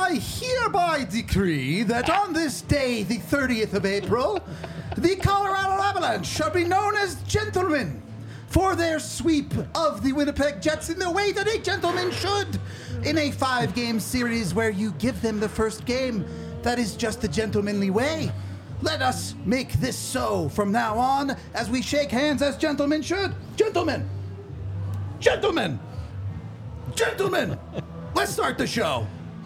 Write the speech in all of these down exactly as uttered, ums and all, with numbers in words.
I hereby decree that on this day, the thirtieth of April, the Colorado Avalanche shall be known as gentlemen for their sweep of the Winnipeg Jets in the way that a gentleman should in a five-game series where you give them the first game. That is just the gentlemanly way. Let us make this so from now on as we shake hands as gentlemen should. Gentlemen! Gentlemen! Gentlemen! Let's start the show.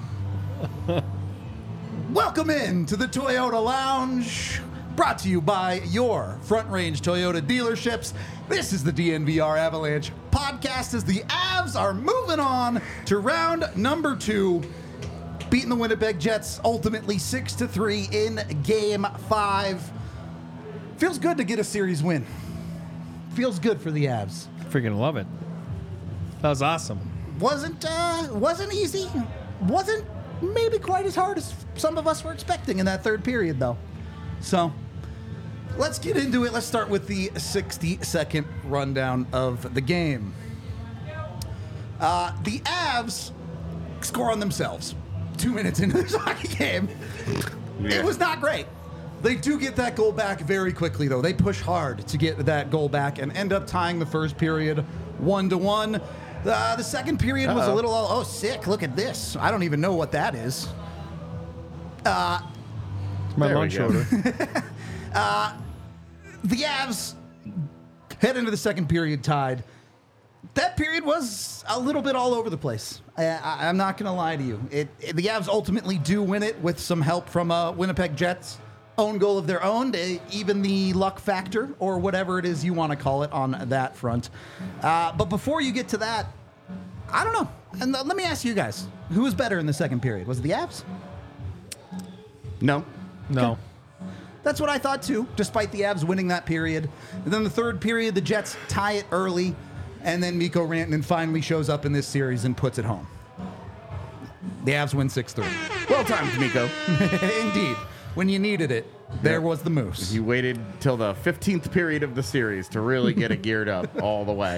Welcome in to the Toyota Lounge, brought to you by your Front Range Toyota dealerships. This is the D N V R Avalanche podcast as the Avs are moving on to round number two, beating the Winnipeg Jets ultimately six to three in game five. Feels good to get a series win. Feels good for the Avs. Freaking love it. That was awesome. Wasn't uh, wasn't easy. Wasn't maybe quite as hard as some of us were expecting in that third period, though. So let's get into it. Let's start with the sixty-second rundown of the game. Uh, the Avs score on themselves two minutes into this hockey game. Yeah. It was not great. They do get that goal back very quickly, though. They push hard to get that goal back and end up tying the first period one to one. Uh, the second period Uh-oh. was a little, oh, sick. Look at this. I don't even know what that is. Uh, My long shoulder. uh, the Avs head into the second period tied. That period was a little bit all over the place. I, I, I'm not going to lie to you. It, it, the Avs ultimately do win it with some help from uh, Winnipeg Jets. Own goal of their own, even the luck factor, or whatever it is you want to call it on that front. Uh, but before you get to that, I don't know. And let me ask you guys, who was better in the second period? Was it the Avs? No. No. Okay. That's what I thought too, despite the Avs winning that period. And then the third period, the Jets tie it early, and then Mikko Rantanen finally shows up in this series and puts it home. The Avs win six three. Well timed, Mikko. Indeed. When you needed it, there yep. was the Moose. You waited till the fifteenth period of the series to really get it geared up all the way.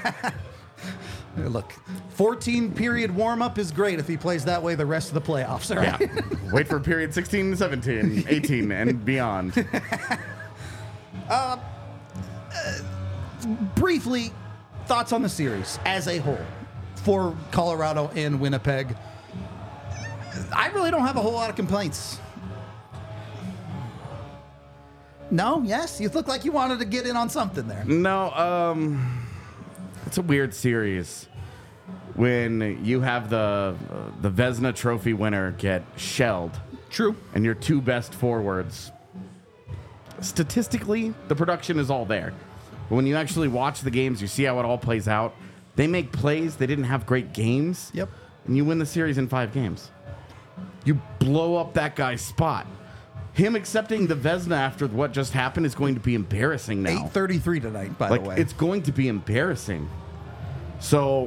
Look, fourteen period warm-up is great if he plays that way the rest of the playoffs, all right? Yeah. Wait for period sixteen, seventeen, eighteen, and beyond. Uh, uh, briefly, thoughts on the series as a whole for Colorado and Winnipeg. I really don't have a whole lot of complaints. No? Yes? You look like you wanted to get in on something there. No, um, it's a weird series when you have the uh, the Vezina Trophy winner get shelled. True. And your two best forwards. Statistically, the production is all there. But when you actually watch the games, you see how it all plays out. They make plays. They didn't have great games. Yep. And you win the series in five games. You blow up that guy's spot. Him accepting the Vezina after what just happened is going to be embarrassing now. eight thirty-three tonight, by like, the way. It's going to be embarrassing. So,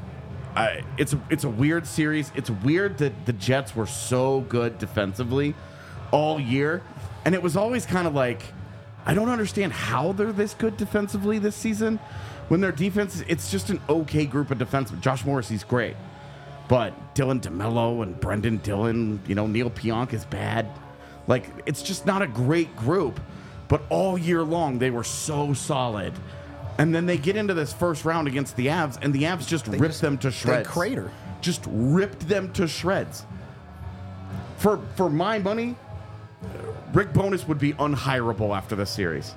I, it's, a, it's a weird series. It's weird that the Jets were so good defensively all year. And it was always kind of like, I don't understand how they're this good defensively this season. When their defense, it's just an okay group of defensemen. Josh Morrissey's great. But Dylan DeMello and Brendan Dillon, you know, Neil Pionk is bad. Like, it's just not a great group. But all year long, they were so solid. And then they get into this first round against the Avs, and the Avs just they ripped just, them to shreds. They crater. Just ripped them to shreds. For for my money, Rick Bowness would be unhireable after this series.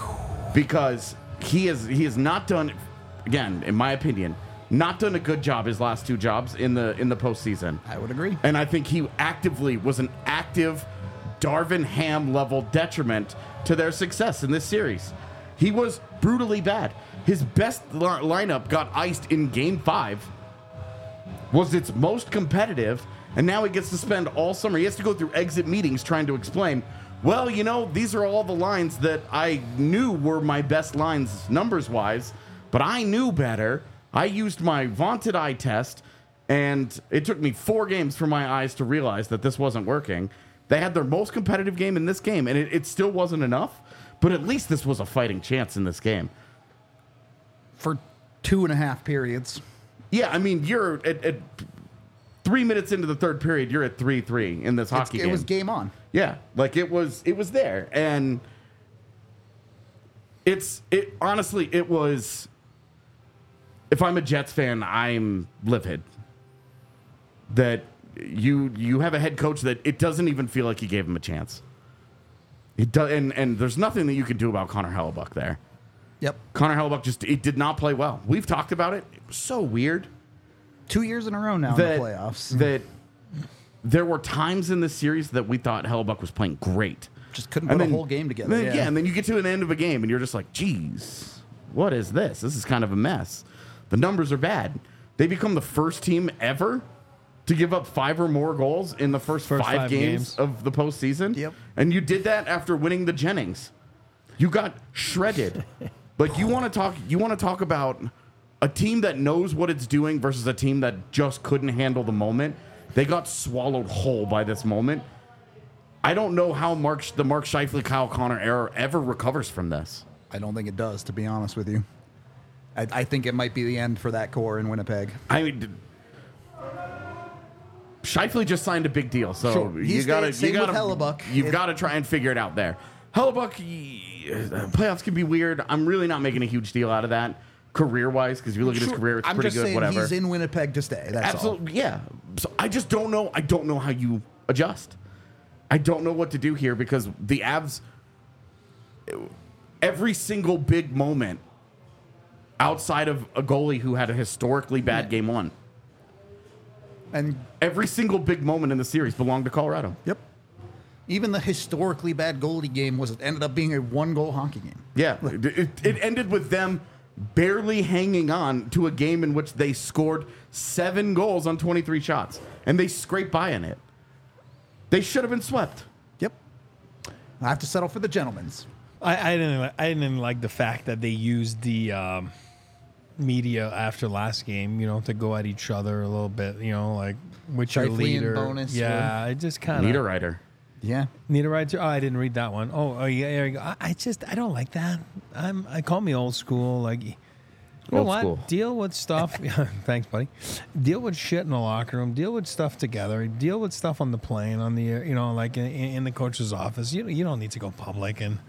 Because he is he has not done, again, in my opinion, not done a good job his last two jobs in the in the postseason. I would agree. And I think he actively was an active Darvin Ham level detriment to their success in this series. He was brutally bad. His best li- lineup got iced in game five, was its most competitive, and now he gets to spend all summer. He has to go through exit meetings trying to explain, well, you know, these are all the lines that I knew were my best lines numbers-wise, but I knew better. I used my vaunted eye test, and it took me four games for my eyes to realize that this wasn't working. They had their most competitive game in this game, and it, it still wasn't enough, but at least this was a fighting chance in this game. For two and a half periods. Yeah, I mean, you're at, at three minutes into the third period, you're at three three in this It's, hockey it game. was game on. Yeah, like it was it was there. And it's it honestly it was if I'm a Jets fan, I'm livid that you you have a head coach that it doesn't even feel like you gave him a chance. It does, and, and there's nothing that you can do about Connor Hellebuck there. Yep. Connor Hellebuck just it did not play well. We've talked about it. It was so weird. Two years in a row now that, in the playoffs. That there were times in the series that we thought Hellebuck was playing great. Just couldn't And put then- a whole game together. Then, yeah. yeah. and then you get to an end of a game and you're just like, geez, what is this? This is kind of a mess. The numbers are bad. They become the first team ever to give up five or more goals in the first, First five, five games, games. of the postseason. Yep. And you did that after winning the Jennings. You got shredded. Like you want to talk you want to talk about a team that knows what it's doing versus a team that just couldn't handle the moment. They got swallowed whole by this moment. I don't know how Mark the Mark Scheifele Kyle Connor era ever recovers from this. I don't think it does, to be honest with you. I, I think it might be the end for that core in Winnipeg. I mean, d- Scheifele just signed a big deal, so Sure. you He's got to staying- you same got with to Hellebuck. you've It- got to try and figure it out there. Hellebuck, y- uh, playoffs can be weird. I'm really not making a huge deal out of that career wise because if you look at his Sure. career, it's I'm pretty just good. saying Whatever. he's in Winnipeg to stay. That's all. Absolutely, yeah. So I just don't know. I don't know how you adjust. I don't know what to do here because the Avs, every single big moment outside of a goalie who had a historically bad game one, And every single big moment in the series belonged to Colorado. yep, even the historically bad goalie game was ended up being a one-goal hockey game. Yeah, it, it, it ended with them barely hanging on to a game in which they scored seven goals on twenty-three shots, and they scraped by in it. They should have been swept. Yep, I have to settle for the gentlemen's. I, I didn't. li- I didn't like the fact that they used the um, media after last game, you know, to go at each other a little bit. You know, like which your Scheifele and leader. Bonus Yeah, it just kind of Niederreiter. Yeah, Niederreiter. Oh, I didn't read that one. Oh, oh yeah, there you go. I, I just I don't like that. I'm. I call me old school. Like, you know Old what? school. Deal with stuff. Thanks, buddy. Deal with shit in the locker room. Deal with stuff together. Deal with stuff on the plane, on the you know, like in, in the coach's office. You you don't need to go public. And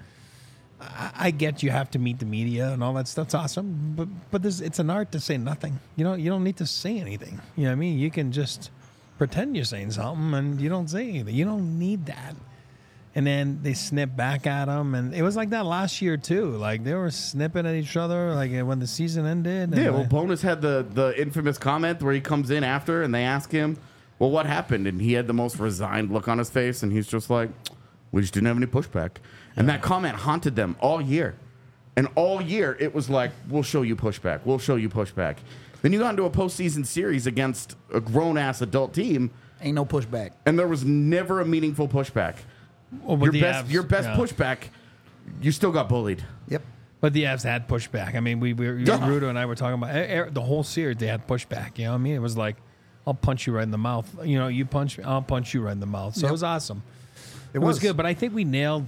I, I get you have to meet the media and all that stuff. That's awesome. But but this it's an art to say nothing. You know you don't need to say anything. You know what I mean? You can just pretend you're saying something and you don't say anything. You don't need that. And then they snip back at them, and it was like that last year too. Like they were snipping at each other, like when the season ended. And Yeah, well, like- Bonus had the, the infamous comment where he comes in after and they ask him, well, what happened? And he had the most resigned look on his face, and he's just like, we just didn't have any pushback. And that comment haunted them all year. And all year, it was like, we'll show you pushback. We'll show you pushback. Then you got into a postseason series against a grown-ass adult team, ain't no pushback. and there was never a meaningful pushback. Oh, but Your the best, Avs- your best yeah. pushback, you still got bullied. Yep. But the Avs had pushback. I mean, we, we Yeah. Rudo and I were talking about eh, eh, the whole series. They had pushback. You know what I mean? It was like, I'll punch you right in the mouth. You know, you punch me, I'll punch you right in the mouth. So Yep. it was awesome. It, It was good. But I think we nailed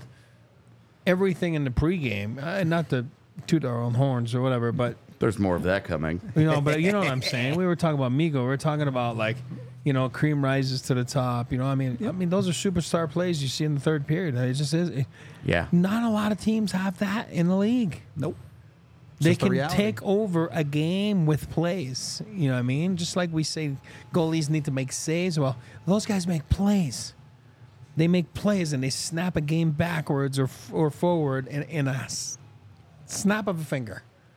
everything in the pregame. Uh, not to toot our own horns or whatever, but There's more of that coming. you know, but you know what I'm saying. We were talking about Migo. We were talking about like, you know, cream rises to the top. You know, I mean, I mean, those are superstar plays you see in the third period. It just is. It, Yeah. not a lot of teams have that in the league. Nope. They just the can reality. take over a game with plays. You know what I mean? Just like we say goalies need to make saves. Well, those guys make plays. They make plays and they snap a game backwards or or forward in, in a s- snap of a finger.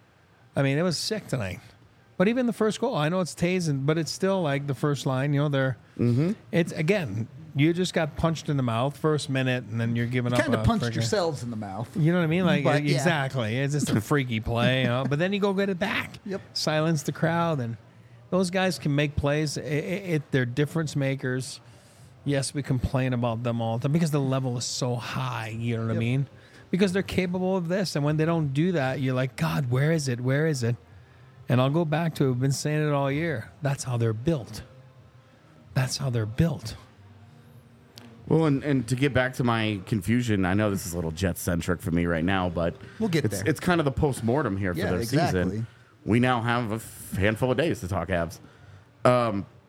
I mean, it was sick tonight. But even the first goal, I know it's Taves, and but it's still like the first line. You know, they're Mm-hmm. it's again. You just got punched in the mouth first minute, and then you're giving up. Kind of a punched frickin- yourselves in the mouth. You know what I mean? Like But, yeah. exactly. It's just a freaky play, you know? But then you go get it back. Yep. Silence the crowd, and those guys can make plays. It, it, it, they're difference makers. Yes, we complain about them all the time because the level is so high. You know what I Yep. mean? Because they're capable of this, and when they don't do that, you're like, God, where is it? Where is it? And I'll go back to. I've been saying it all year. That's how they're built. That's how they're built. Well, and, and to get back to my confusion, I know this is a little Jet-centric for me right now, but We'll get it's, there. it's kind of the post-mortem here for Yeah, their exactly. season. We now have a handful of days to talk Avs. Um,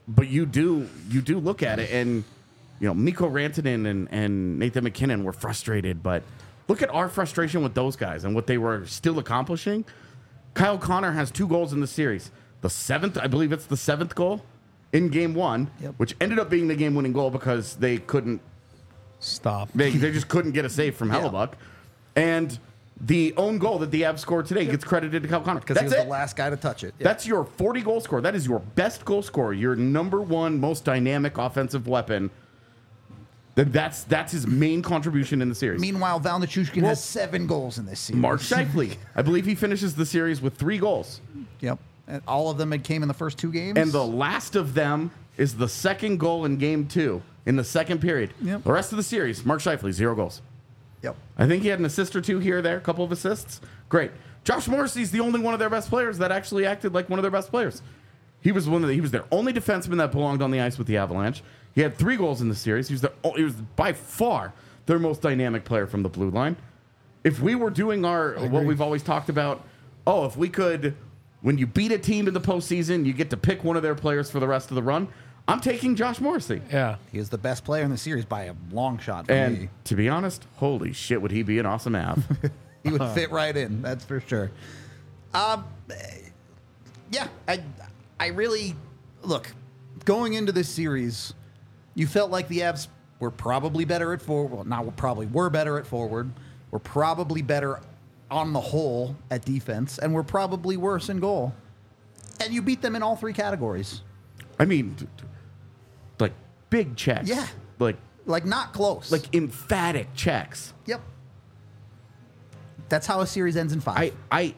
but you do you do look at it, and you know Mikko Rantanen and, and Nathan McKinnon were frustrated, but look at our frustration with those guys and what they were still accomplishing. Kyle Connor has two goals in the series. The seventh, I believe it's the seventh goal in game one, Yep. which ended up being the game-winning goal because they couldn't, Stop. they, they just couldn't get a save from Yeah. Hellebuck. And the own goal that the Avs scored today gets credited to Kyle Connor. Because he That's was it. the last guy to touch it. Yeah. That's your forty goal scorer. That is your best goal scorer. Your number one most dynamic offensive weapon. Then that's that's his main contribution in the series. Meanwhile, Val Nichushkin Well, has seven goals in this series. Mark Scheifele, I believe he finishes the series with three goals. Yep. And all of them had came in the first two games. And the last of them is the second goal in game two in the second period. Yep. The rest of the series, Mark Scheifele, zero goals. Yep. I think he had an assist or two here or there, a couple of assists. Great. Josh Morrissey's the only one of their best players that actually acted like one of their best players. He was one of the, he was their only defenseman that belonged on the ice with the Avalanche. He had three goals in the series. He was, their, he was by far their most dynamic player from the blue line. If we were doing our what we've always talked about, oh, if we could, when you beat a team in the postseason, you get to pick one of their players for the rest of the run. I'm taking Josh Morrissey. Yeah. He is the best player in the series by a long shot for And me. to be honest, holy shit, would he be an awesome Av? He would fit right in, that's for sure. Um, yeah, I, I really look going into this series. You felt like the Avs were probably better at forward. Well, not probably were better at forward. Were probably better on the whole at defense, and were probably worse in goal. And you beat them in all three categories. I mean, d- d- like big checks. Yeah. Like Like not close. like emphatic checks. yep. That's how a series ends in five. I I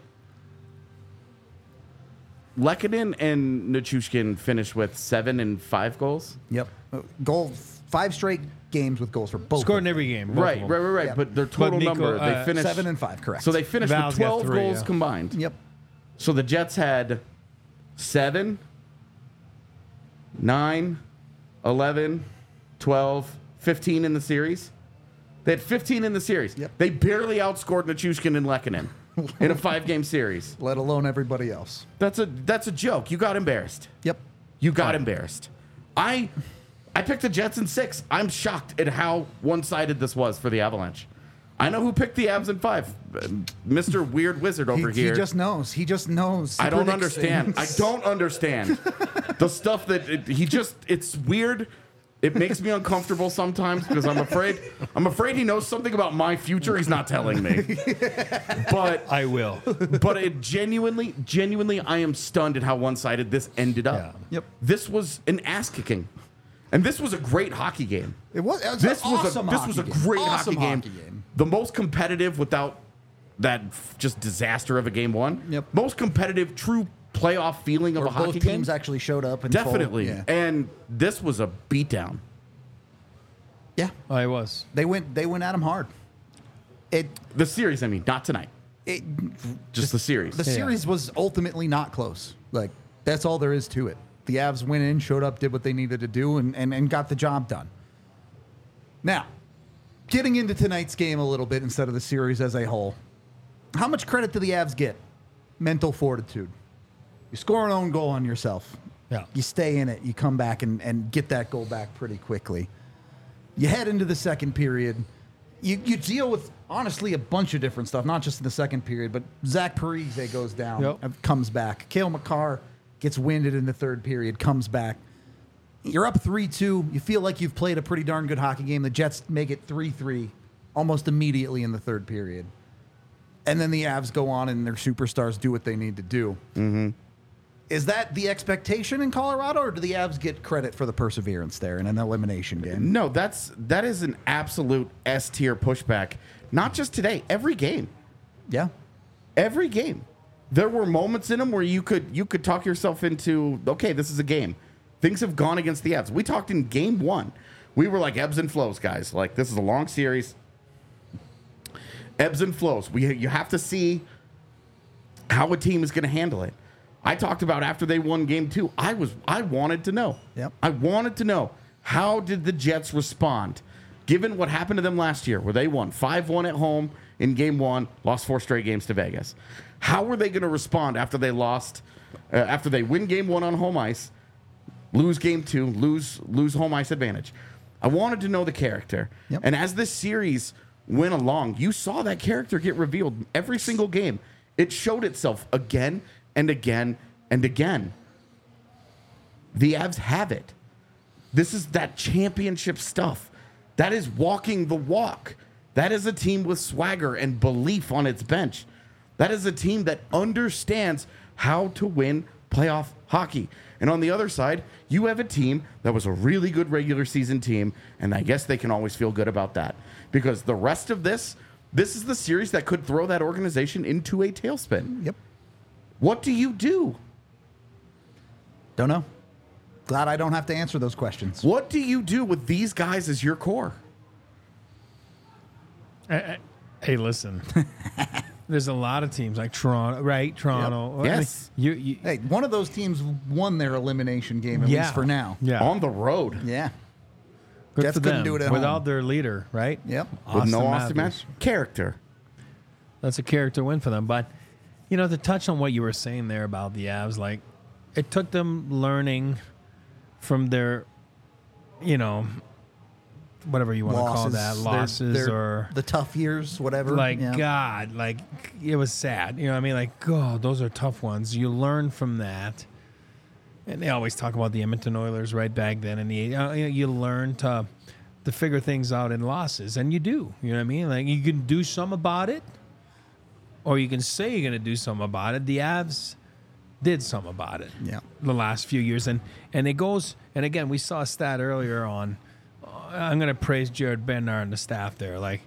Lehkonen and Nichushkin finished with seven and five goals. Yep. Uh, Goal five straight games with goals for both. Scored of in them. every game. both Right, of them. right, right, right. Yeah. But their total Nico, number, uh, they finished Seven and five, correct. So they finished Val's with got twelve three, goals yeah. combined. Yep. So the Jets had seven, nine, eleven, twelve, fifteen in the series. They had fifteen in the series. Yep. They barely outscored Nichushkin and Lehkonen in a five-game series. Let alone everybody else. That's a that's a joke. You got embarrassed. Yep. You got embarrassed. I I picked the Jets in six. I'm shocked at how one-sided this was for the Avalanche. I know who picked the Avs in five. Uh, Mister Weird Wizard over he, here. he just knows. He just knows. He I don't predicts understand. I things. don't understand the stuff that it, he just. It's weird. It makes me uncomfortable sometimes because I'm afraid. I'm afraid he knows something about my future he's not telling me. But I will. but it genuinely, genuinely, I am stunned at how one-sided this ended up. Yeah. Yep. This was an ass kicking, and this was a great hockey game. It was. It was This an was awesome a this hockey was a game. great Awesome hockey, game. hockey game. The most competitive without that f- just disaster of a game one. Yep. Most competitive, true playoff feeling of Where a hockey both game. teams actually showed up. In full- Definitely. yeah. And this was a beatdown. yeah. I was. They went. They went at him hard. It. The series, I mean, not tonight. It. Just the series. The series was ultimately not close. Like that's all there is to it. The Avs went in, showed up, did what they needed to do, and, and, and got the job done. Now, getting into tonight's game a little bit instead of the series as a whole, how much credit do the Avs get? Mental fortitude. You score an own goal on yourself. Yeah. You stay in it. You come back and, and get that goal back pretty quickly. You head into the second period. You you deal with, honestly, a bunch of different stuff, not just in the second period, but Zach Parise goes down, Yep. and comes back. Cale Makar gets winded in the third period, comes back. You're up three two. You feel like you've played a pretty darn good hockey game. The Jets make it three three almost immediately in the third period. And then the Avs go on and their superstars do what they need to do. Mm-hmm. Is that the expectation in Colorado, or do the Avs get credit for the perseverance there in an elimination game? No, that's that is an absolute S tier pushback. Not just today, every game. Yeah. Every game. There were moments in them where you could you could talk yourself into, okay, this is a game. Things have gone against the Avs. We talked in game one. We were like ebbs and flows, guys. Like, this is a long series. Ebbs and flows. We you have to see how a team is going to handle it. I talked about after they won game two, I was I wanted to know. Yep. I wanted to know, how did the Jets respond given what happened to them last year, where they won five one at home in game one, lost four straight games to Vegas. How were they going to respond after they lost, uh, after they win game one on home ice, lose game two, lose lose home ice advantage. I wanted to know the character. Yep. And as this series went along, you saw that character get revealed every single game. It showed itself again and again and again. The Avs have it. This is that championship stuff. That is walking the walk. That is a team with swagger and belief on its bench. That is a team that understands how to win playoff hockey. And on the other side, you have a team that was a really good regular season team, and I guess they can always feel good about that. Because the rest of this, this is the series that could throw that organization into a tailspin. Yep. What do you do? Don't know. Glad I don't have to answer those questions. What do you do with these guys as your core? Hey, listen. There's a lot of teams like Toronto, right? Toronto. Yep. Yes. You, you, Hey, one of those teams won their elimination game, at yeah. least for now. Yeah. On the road. Yeah. Good Jets for couldn't them. do it at without home. their leader, right? Yep. With no Austin Matthews. Matthews. Character. That's a character win for them. But, you know, to touch on what you were saying there about the Avs, like, it took them learning from their, you know, whatever you want to call that, Their- losses their- or the tough years, whatever. like Yeah. God, like it was sad. You know what I mean? Like, God, those are tough ones. You learn from that. And they always talk about the Edmonton Oilers right back then. And the, you know, you learn to to figure things out in losses. And you do. You know what I mean? Like, you can do some about it, or you can say you're going to do something about it. The Avs did some about it Yeah. the last few years. And, and it goes, and again, we saw a stat earlier on. I'm going to praise Jared Bednar and the staff there. Like,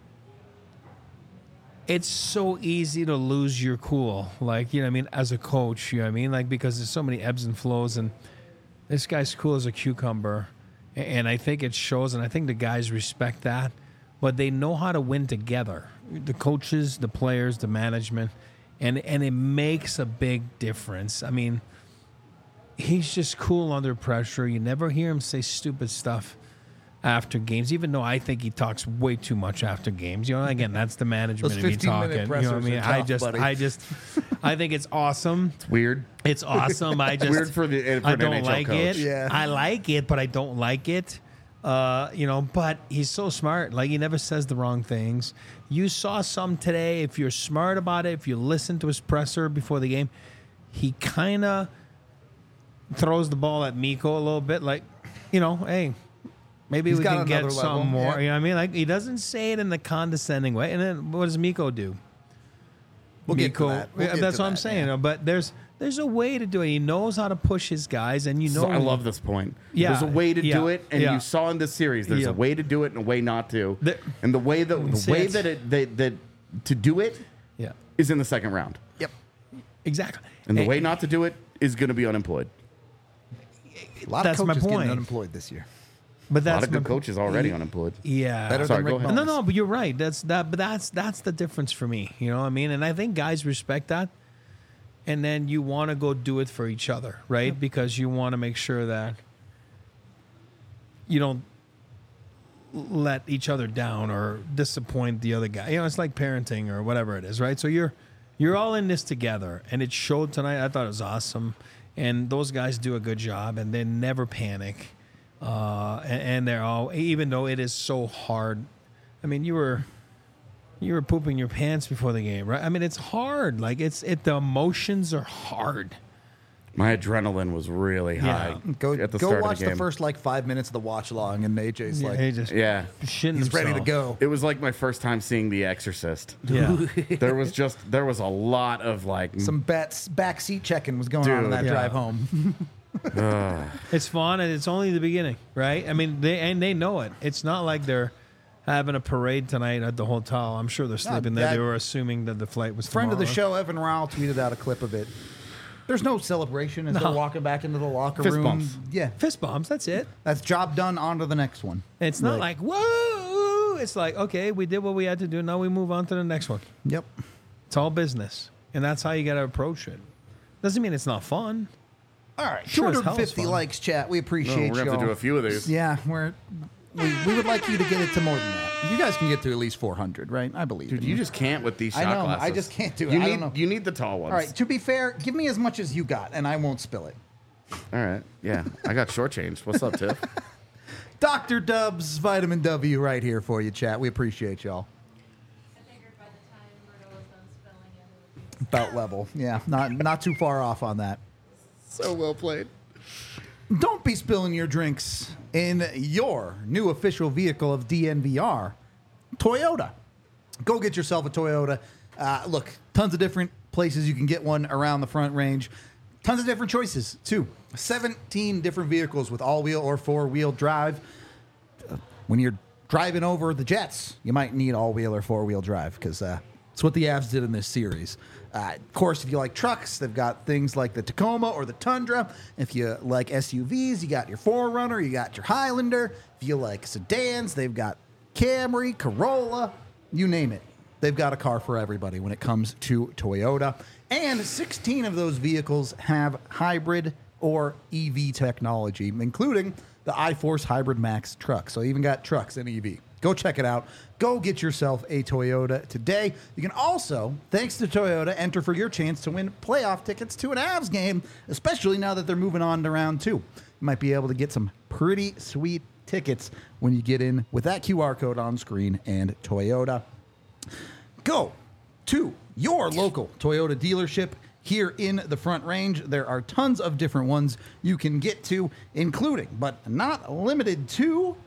it's so easy to lose your cool. Like, you know what I mean? As a coach, you know what I mean? Like, because there's so many ebbs and flows, and this guy's cool as a cucumber. A- And I think it shows, and I think the guys respect that. But they know how to win together. The coaches, the players, the management. And, and it makes a big difference. I mean, he's just cool under pressure. You never hear him say stupid stuff after games, even though I think he talks way too much after games. You know, again, that's the management Those of me fifteen-minute talking. You know what I pressers mean? are I tough, just, buddy. I just, I think it's awesome. It's weird. It's awesome. I just Weird for the for I an don't N H L like coach. it. Yeah. I like it, but I don't like it. Uh, you know, but he's so smart. Like, he never says the wrong things. You saw some today. If you're smart about it, if you listen to his presser before the game, he kind of throws the ball at Mikko a little bit. Like, you know, hey, maybe He's we got can get another some level, more. yeah. You know what I mean? Like, he doesn't say it in the condescending way. And then what does Mikko do? We'll get to Mikko- that. We'll yeah, get that's to what I'm that, saying. yeah. But there's there's a way to do it. He knows how to push his guys, and you know So I love this point. Yeah, There's a way to yeah, do it, and yeah. you saw in this series, there's Yeah. a way to do it and a way not to. The- and the way that the See, way it's- that it that, that to do it Yeah, is in the second round, Yep. exactly. and the And- way not to do it is going to be unemployed. A lot That's of my coaches getting point. unemployed this year. but A that's lot of good my- coaches already unemployed. Yeah. Better Sorry, than go Rick ahead. No, Bones. no, but you're right. That's that. But that's that's the difference for me. You know what I mean? And I think guys respect that. And then you want to go do it for each other, right? Because you want to make sure that you don't let each other down or disappoint the other guy. You know, it's like parenting or whatever it is, right? So you're you're all in this together, and it showed tonight. I thought it was awesome, and those guys do a good job, and they never panic. Uh, and, and they're all, even though it is so hard. I mean, you were you were pooping your pants before the game, right? I mean, it's hard. Like it's it. The emotions are hard. My adrenaline was really high Go at the go start watch of the the, game. first like five minutes of the watch long, and A J's Yeah, like, he just yeah, shitting he's ready to himself. go. it was like my first time seeing The Exorcist. Yeah. There was just there was a lot of like Some bats back seat checking was going on on Dude. that Yeah. drive home. It's fun, and it's only the beginning, right? I mean, they and they know it. It's not like they're having a parade tonight at the hotel. I'm sure they're sleeping there. that- They were assuming that the flight was Friend of the tomorrow. show, Evan Rowell, tweeted out a clip of it. There's no celebration as they're walking back into the locker Fist room. bumps. Yeah, Fist bumps. That's it. that's job done. On to the next one. It's not like whoa. It's like okay, we did what we had to do. Now we move on to the next one. Yep. It's all business, and that's how you got to approach it. Doesn't mean it's not fun. All right, Sure as hell it's two hundred fifty fun. likes, chat. We Oh, appreciate we're gonna have y'all. to do a few of these. Yeah, we're we, we would like you to get it to more than that. You guys can get to at least four hundred, right? I believe. Dude, in you just can't with these I shot know, I glasses. just can't do it. You I need don't know. you need the tall ones. All right. To be fair, give me as much as you got, and I won't spill it. All right. Yeah. I got shortchanged. What's up, Tiff? Doctor Dubs Vitamin W right here for you, chat. We appreciate y'all. I figured by the time Murdo was done spelling it, it would About level. Yeah, not not too far off on that. So well played. Don't be spilling your drinks in your new official vehicle of D N V R, Toyota. Go get yourself a Toyota. Uh, look, tons of different places you can get one around the Front Range. Tons of different choices, too. seventeen different vehicles with all-wheel or four-wheel drive. Uh, when you're driving over the Jets, you might need all-wheel or four-wheel drive because uh, it's what the Avs did in this series. Uh, of course, if you like trucks, they've got things like the Tacoma or the Tundra. If you like S U Vs, you got your four runner, you got your Highlander. If you like sedans, they've got Camry, Corolla, you name it. They've got a car for everybody when it comes to Toyota. And sixteen of those vehicles have hybrid or E V technology, including the iForce Hybrid Max truck. So even got trucks and E V. Go check it out. Go get yourself a Toyota today. You can also, thanks to Toyota, enter for your chance to win playoff tickets to an Avs game, especially now that they're moving on to round two. You might be able to get some pretty sweet tickets when you get in with that Q R code on screen and Toyota. Go to your local Toyota dealership here in the Front Range. There are tons of different ones you can get to, including, but not limited to,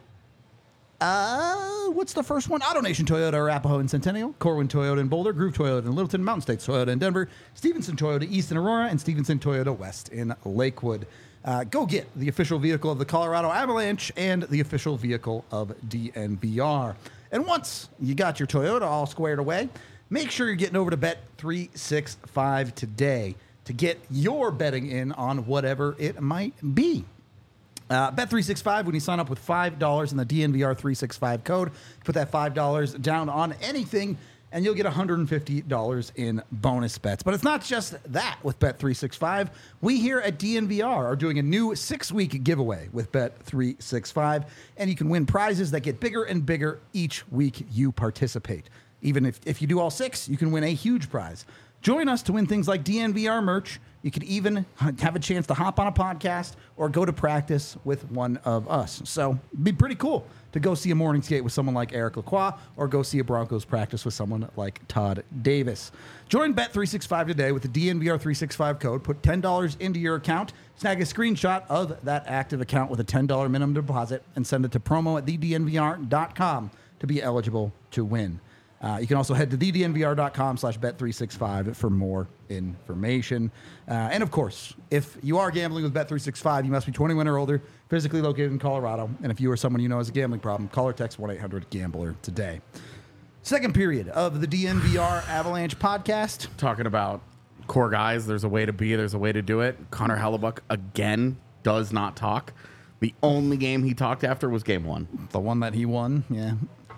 uh, what's the first one? AutoNation Toyota, Arapahoe and Centennial, Corwin Toyota in Boulder, Groove Toyota in Littleton, Mountain States Toyota in Denver, Stevenson Toyota East in Aurora, and Stevenson Toyota West in Lakewood. Uh, go get the official vehicle of the Colorado Avalanche and the official vehicle of D N V R. And once you got your Toyota all squared away, make sure you're getting over to Bet three sixty-five today to get your betting in on whatever it might be. Uh, Bet three sixty-five, when you sign up with five dollars in the D N V R three sixty-five code, put that five dollars down on anything, and you'll get one hundred fifty dollars in bonus bets. But it's not just that with Bet three sixty-five. We here at D N V R are doing a new six-week giveaway with Bet three sixty-five, and you can win prizes that get bigger and bigger each week you participate. Even if, if you do all six, you can win a huge prize. Join us to win things like D N V R merch. You could even have a chance to hop on a podcast or go to practice with one of us. So it'd be pretty cool to go see a morning skate with someone like Eric Lacroix or go see a Broncos practice with someone like Todd Davis. Join Bet three sixty-five today with the D N V R three sixty-five code. Put ten dollars into your account, snag a screenshot of that active account with a ten dollars minimum deposit, and send it to promo at the d n v r dot com to be eligible to win. Uh, you can also head to the d n v r dot com slash bet three sixty-five for more information. Uh, and of course, if you are gambling with Bet three sixty-five, you must be twenty-one or older, physically located in Colorado. And if you or someone you know has a gambling problem, call or text one eight hundred gambler today. Second period of the D N V R Avalanche podcast. Talking about core guys, there's a way to be, there's a way to do it. Connor Hellebuck, again, does not talk. The only game he talked after was game one. The one that he won, yeah.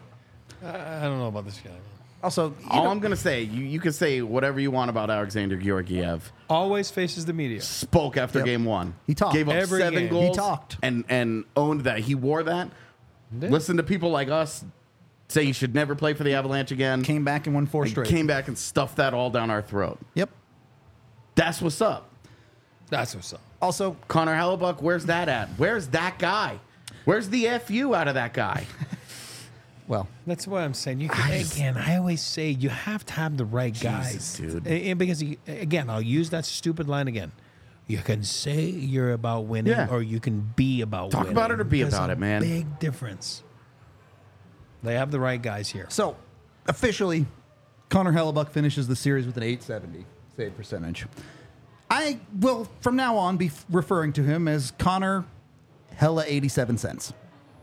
I don't know about this guy. Man. Also, All know, I'm going to say, you, you can say whatever you want about Alexander Georgiev. Always faces the media. Spoke after Yep. game one. He talked. Gave up Every seven game. goals. He talked. And, and owned that. He wore that. Yeah. Listen to people like us say he should never play for the Avalanche again. came back and won four and straight. came back and stuffed that all down our throat. Yep. That's what's up. That's what's up. Also, Connor Hellebuck, where's that at? Where's that guy? Where's the F U out of that guy? well, That's what I'm saying. You can, I just- again, I always say you have to have the right guys, dude. And, and because you, again, I'll use that stupid line again. You can say you're about winning, Yeah. or you can be about Talk winning. about it or be There's about a it, man. Big difference. They have the right guys here. so officially, Connor Hellebuck finishes the series with an eight seventy save percentage. I will, from now on, be f- referring to him as Connor Hella eighty-seven cents.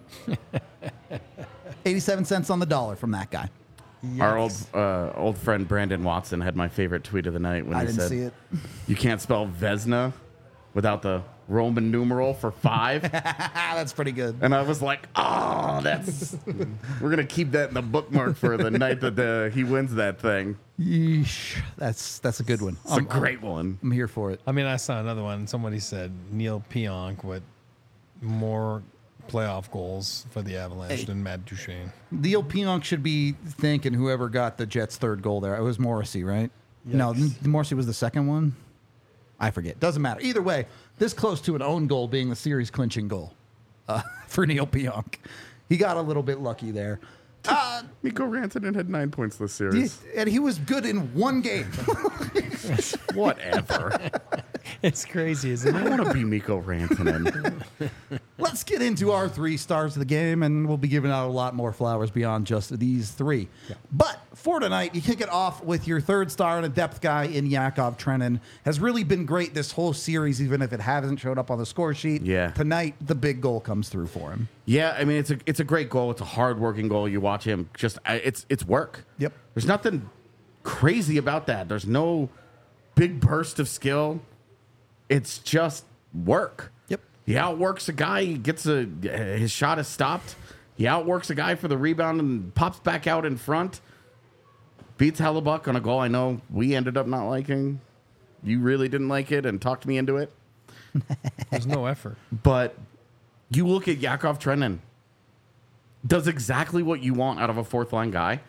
eighty-seven cents on the dollar from that guy. Our old uh, old friend Brandon Watson had my favorite tweet of the night when I he didn't said, see it. "You can't spell Vesna without the Roman numeral for five." Ah, that's pretty good. And I was like, "Oh, that's we're gonna keep that in the bookmark for the night that the, he wins that thing." Yeesh. That's that's a good one. It's a great one. I'm here for it. I mean, I saw another one. Somebody said Neil Pionk with more playoff goals for the Avalanche Hey. than Matt Duchene. Neil Pionk should be thanking whoever got the Jets' third goal there. It was Morrissey, right? No, Yikes. Morrissey was the second one. I forget. Doesn't matter. Either way, this close to an own goal being the series clinching goal uh, for Neil Pionk. He got a little bit lucky there. Uh, Mikko Rantanen had nine points this series. and he was good in one game. Whatever. It's crazy, isn't I it? want to be Mikko Rantanen. Let's get into our three stars of the game, and we'll be giving out a lot more flowers beyond just these three. But for tonight, you kick it off with your third star and a depth guy in Yakov Trenin. Has really been great this whole series, even if it hasn't showed up on the score sheet. Yeah. Tonight, the big goal comes through for him. Yeah, I mean it's a it's a great goal. It's a hard-working goal. You watch him, just I- it's it's work. Yep. There's nothing crazy about that. There's no big burst of skill. It's just work. Yep. He outworks a guy. He gets a his shot is stopped. He outworks a guy for the rebound and pops back out in front. Beats Hellebuck on a goal I know we ended up not liking. You really didn't like it and talked me into it. There's no effort. But you look at Yakov Trenin, does exactly what you want out of a fourth line guy.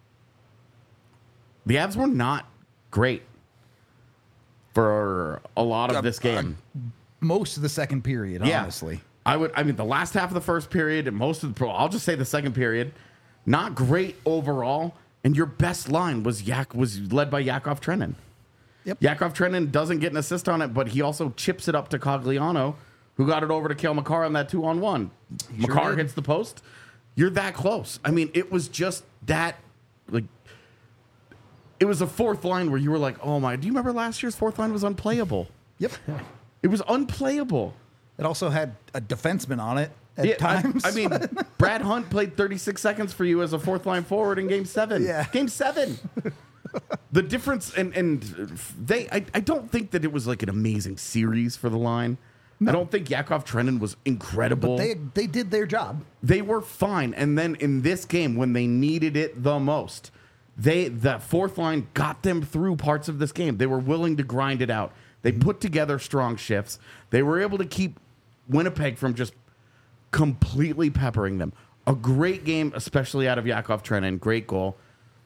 The Avs were not great for a lot of Uh, this game. Most of the second period, yeah. honestly. I would. I mean, the last half of the first period and most of the. I'll just say the second period, not great overall. And your best line was Yak was led by Yakov Trenin. Yep. Yakov Trenin doesn't get an assist on it, but he also chips it up to Cogliano, who got it over to Cale Makar on that two on one. Makar did. hits the post. You're that close. I mean, it was just that like. It was a fourth line where you were like, "Oh my!" Do you remember last year's fourth line was unplayable? Yep. It was unplayable. It also had a defenseman on it at Yeah, I- times. I, mean, Brad Hunt played thirty-six seconds for you as a fourth line forward in Game Seven. Yeah. Game Seven. The difference, and and they, I, I don't think that it was like an amazing series for the line. I don't think Yakov Trenin was incredible. but they they did their job. They were fine, and then in this game when they needed it the most, they the fourth line got them through parts of this game. They were willing to grind it out. They put together strong shifts. They were able to keep Winnipeg from just completely peppering them. A great game, especially out of Yakov Trenin. Great goal.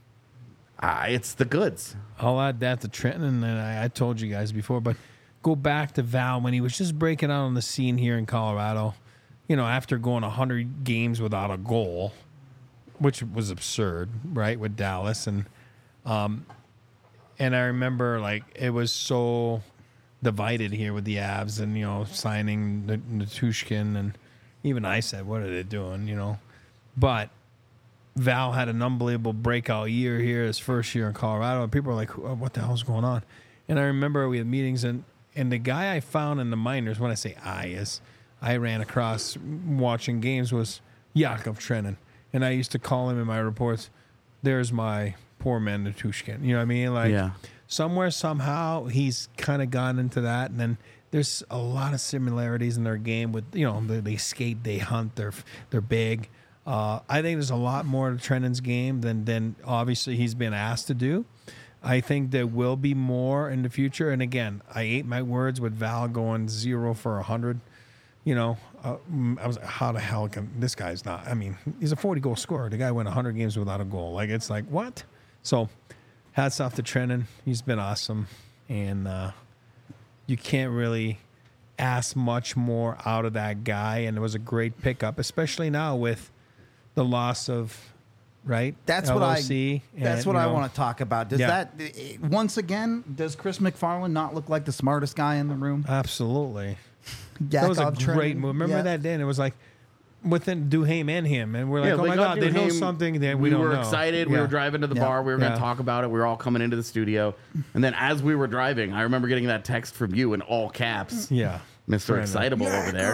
Uh, it's the goods. I'll add that to Trenton, and I, I told you guys before, but go back to Val when he was just breaking out on the scene here in Colorado. You know, after going one hundred games without a goal, which was absurd, right, with Dallas. And um, and I remember, like, it was so divided here with the Avs and, you know, signing N- Natushkin. And even I said, what are they doing, you know? But Val had an unbelievable breakout year here, his first year in Colorado. And people were like, what the hell's going on? And I remember we had meetings, and, and the guy I found in the minors, when I say I, is I ran across watching games, was Yakov Trenin. And I used to call him in my reports, there's my poor man Natushkin. You know what I mean? Like, Yeah. somewhere, somehow, he's kind of gone into that. And then there's a lot of similarities in their game with, you know, they, they skate, they hunt, they're they're big. Uh, I think there's a lot more to Trenin's game than, than obviously he's been asked to do. I think there will be more in the future. And again, I ate my words with Val going zero for one hundred. You know, uh, mm, I was like, how the hell can this guy's not? I mean, he's a forty goal scorer. The guy went one hundred games without a goal. Like, it's like, what? So, hats off to Trenin. He's been awesome. And uh, you can't really ask much more out of that guy. And it was a great pickup, especially now with the loss of, right? That's what I. L O C That's and, what you I know, want to talk about. Does Yeah. that eh, once again? Does Chris McFarland not look like the smartest guy in the room? Absolutely. That was a Yakov great Trenin, move. Remember yeah. that day? And it was like within Duhaime and him. And we're like, oh they my got God, they know Duhaime. something that we, we don't were know. excited. We Yeah. were driving to the Yeah. bar. We were going Yeah. to talk about it. We were all coming into the studio. And then as we were driving, I remember getting that text from you in all caps. Yeah. Mister Brandon. Excitable over there.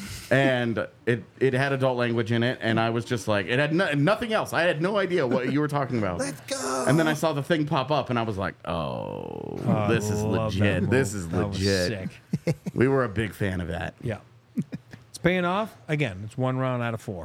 And it, it had adult language in it. And I was just like, it had no, nothing else. I had no idea what you were talking about. Let's go. And then I saw the thing pop up and I was like, oh, Oh, this I is love that legit. move. This is That was legit. sick. We were a big fan of that. Yeah. It's paying off. Again, it's one round out of four.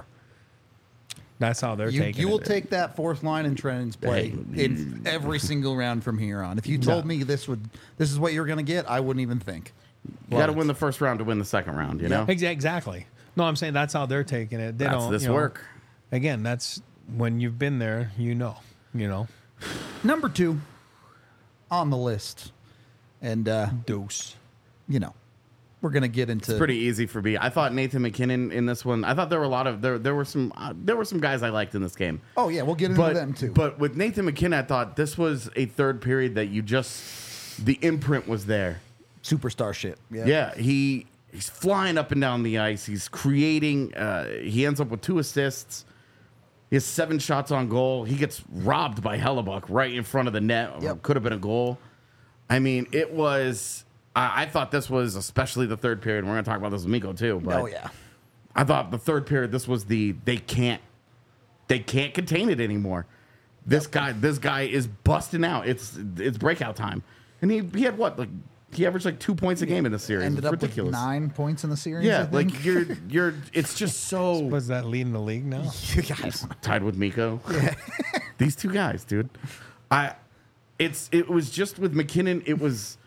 That's how they're You, taking you will it. take that fourth line in Trenin's play Hey. in every single round from here on. If you told Yeah. me this would this is what you were going to get, I wouldn't even think. You got to win the first round to win the second round, you know? Exa- Exactly. No, I'm saying that's how they're taking it. They That's don't, this you know, work. Again, that's when you've been there, you know. You know. Number two on the list, And, uh, Dose. you know, we're going to get into... It's pretty easy for me. I thought Nathan McKinnon in this one. I thought there were a lot of there. There were some. Uh, there were some guys I liked in this game. Oh, yeah, we'll get into But them, too. but with Nathan McKinnon, I thought this was a third period that you just the imprint was there. Superstar shit. Yeah. Yeah, he he's flying up and down the ice. He's creating. Uh, he ends up with two assists. He has seven shots on goal. He gets robbed by Hellebuck right in front of the net. Yep. Could have been a goal. I mean, it was. I, I thought this was especially the third period. We're going to talk about this with Miko too. But Oh, yeah. I thought the third period. This was the they can't they can't contain it anymore. This guy this guy is busting out. It's it's breakout time, and he he had what like. He averaged like two points a game in the series. Ended It's up ridiculous. with nine points in the series, I Yeah, think. like you're you're. It's just so Was that leading the league now? You guys. tied with Miko. These two guys, dude. I. It's it was just with McKinnon. It was.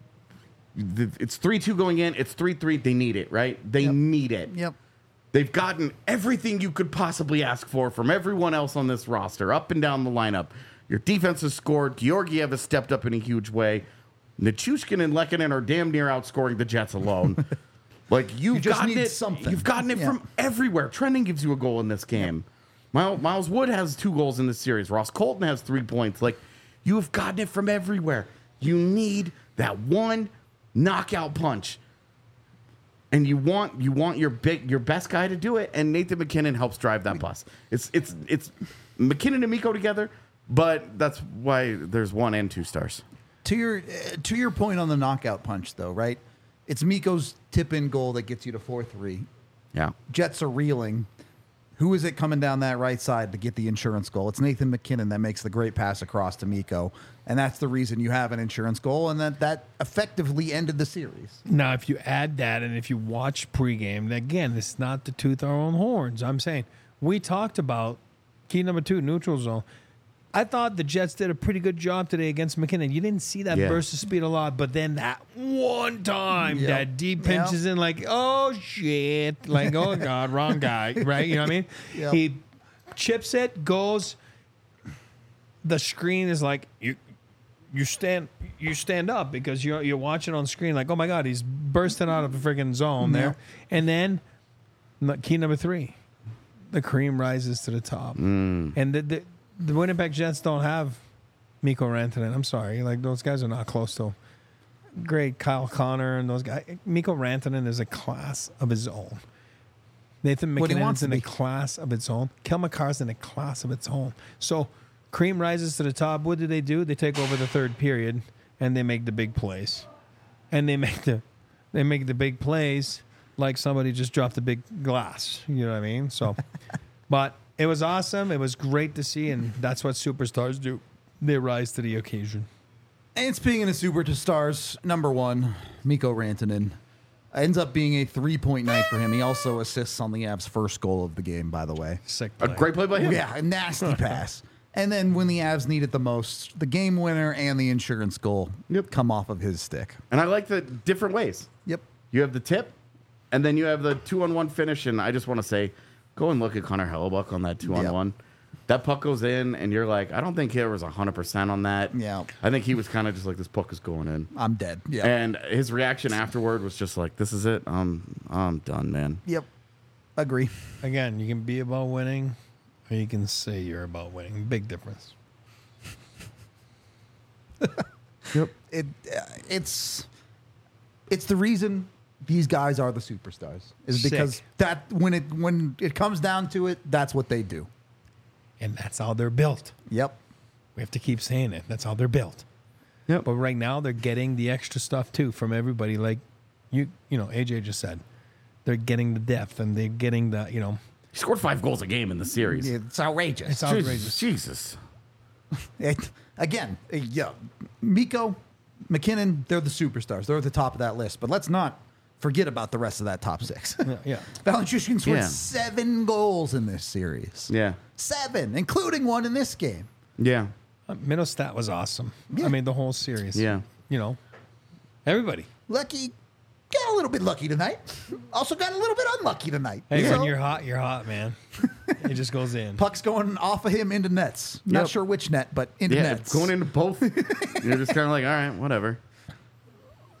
the- It's three two going in. It's three three. They need it, right? They Yep. need it. Yep. They've gotten everything you could possibly ask for from everyone else on this roster, up and down the lineup. Your defense has scored. Georgiev has stepped up in a huge way. Nichushkin and Lehkonen are damn near outscoring the Jets alone. Like you've You just gotten need it. something. You've gotten it Yeah. from everywhere. Trending gives you a goal in this game. Miles, Miles Wood has two goals in this series. Ross Colton has three points. Like you've gotten it from everywhere. You need that one knockout punch. And you want you want your big your best guy to do it, and Nathan McKinnon helps drive that bus. It's it's it's McKinnon and Miko together, but that's why there's one and two stars. To your uh, to your point on the knockout punch, though, right? It's Miko's tip-in goal that gets you to four three. Yeah. Jets are reeling. Who is it coming down that right side to get the insurance goal? It's Nathan McKinnon that makes the great pass across to Miko, and that's the reason you have an insurance goal, and that that effectively ended the series. Now, if you add that and if you watch pregame, again, it's not to tooth our own horns. I'm saying we talked about key number two, neutral zone. I thought the Jets did a pretty good job today against McKinnon. You didn't see that Yeah. burst of speed a lot, but then that one time Yep. that deep Yep. pinches in like, oh shit, like, oh God, wrong guy, right? You know what I mean? Yep. He chips it, goes. The screen is like you. You stand, you stand up because you're you're watching on screen like, oh my God, he's bursting out of a freaking zone there, and then n- key number three, the cream rises to the top, and the, the the Winnipeg Jets don't have Mikko Rantanen. I'm sorry, like those guys are not close to him. Great Kyle Connor and those guys. Mikko Rantanen is a class of his own. Nathan What he McKinnon wants is in to a be. class of its own. Kel McCarr's in a class of its own. So cream rises to the top. What do they do? They take over the third period and they make the big plays. And they make the they make the big plays like somebody just dropped a big glass. You know what I mean? So but it was awesome. It was great to see, and that's what superstars do. They rise to the occasion. And speaking of superstars, number one, Mikko Rantanen, ends up being a three-point night for him. He also assists on the Avs' first goal of the game, by the way. Sick A play. great play by him. Yeah, a nasty pass. And then when the Avs need it the most, the game winner and the insurance goal Yep. come off of his stick. And I like the different ways. Yep. You have the tip, and then you have the two on one finish. And I just want to say, go and look at Connor Hellebuck on that two on one. That puck goes in, and you're like, I don't think he was one hundred percent on that. Yeah. I think he was kind of just like, this puck is going in. I'm dead. Yeah. And his reaction afterward was just like, this is it. I'm, I'm done, man. Yep. Agree. Again, you can be about winning, or you can say you're about winning. Big difference. Yep. It uh, it's it's the reason these guys are the superstars is because Sick. that when it when it comes down to it, that's what they do. And that's how they're built. Yep. We have to keep saying it. That's how they're built. Yep. But right now, they're getting the extra stuff too from everybody. Like you, you know, A J just said, they're getting the depth and they're getting the, you know, He scored five goals a game in the series. It's outrageous. it's outrageous. Jesus. It, again, uh, yeah, Mikko, McKinnon, they're the superstars. They're at the top of that list. But let's not forget about the rest of that top six. Yeah, yeah. Valenchushkin scored Yeah. seven goals in this series. Yeah. Seven, including one in this game. Yeah. Uh, Middlestat was awesome. Yeah. I mean, the whole series. Yeah. You know, everybody. Lucky, got a little bit lucky tonight. Also got a little bit unlucky tonight. Hey, So, when you're hot, you're hot, man. It just goes in. puck's going off of him into nets. Not Yep. sure which net, but into Yeah. nets. Going into both. You're just kind of like, all right, whatever.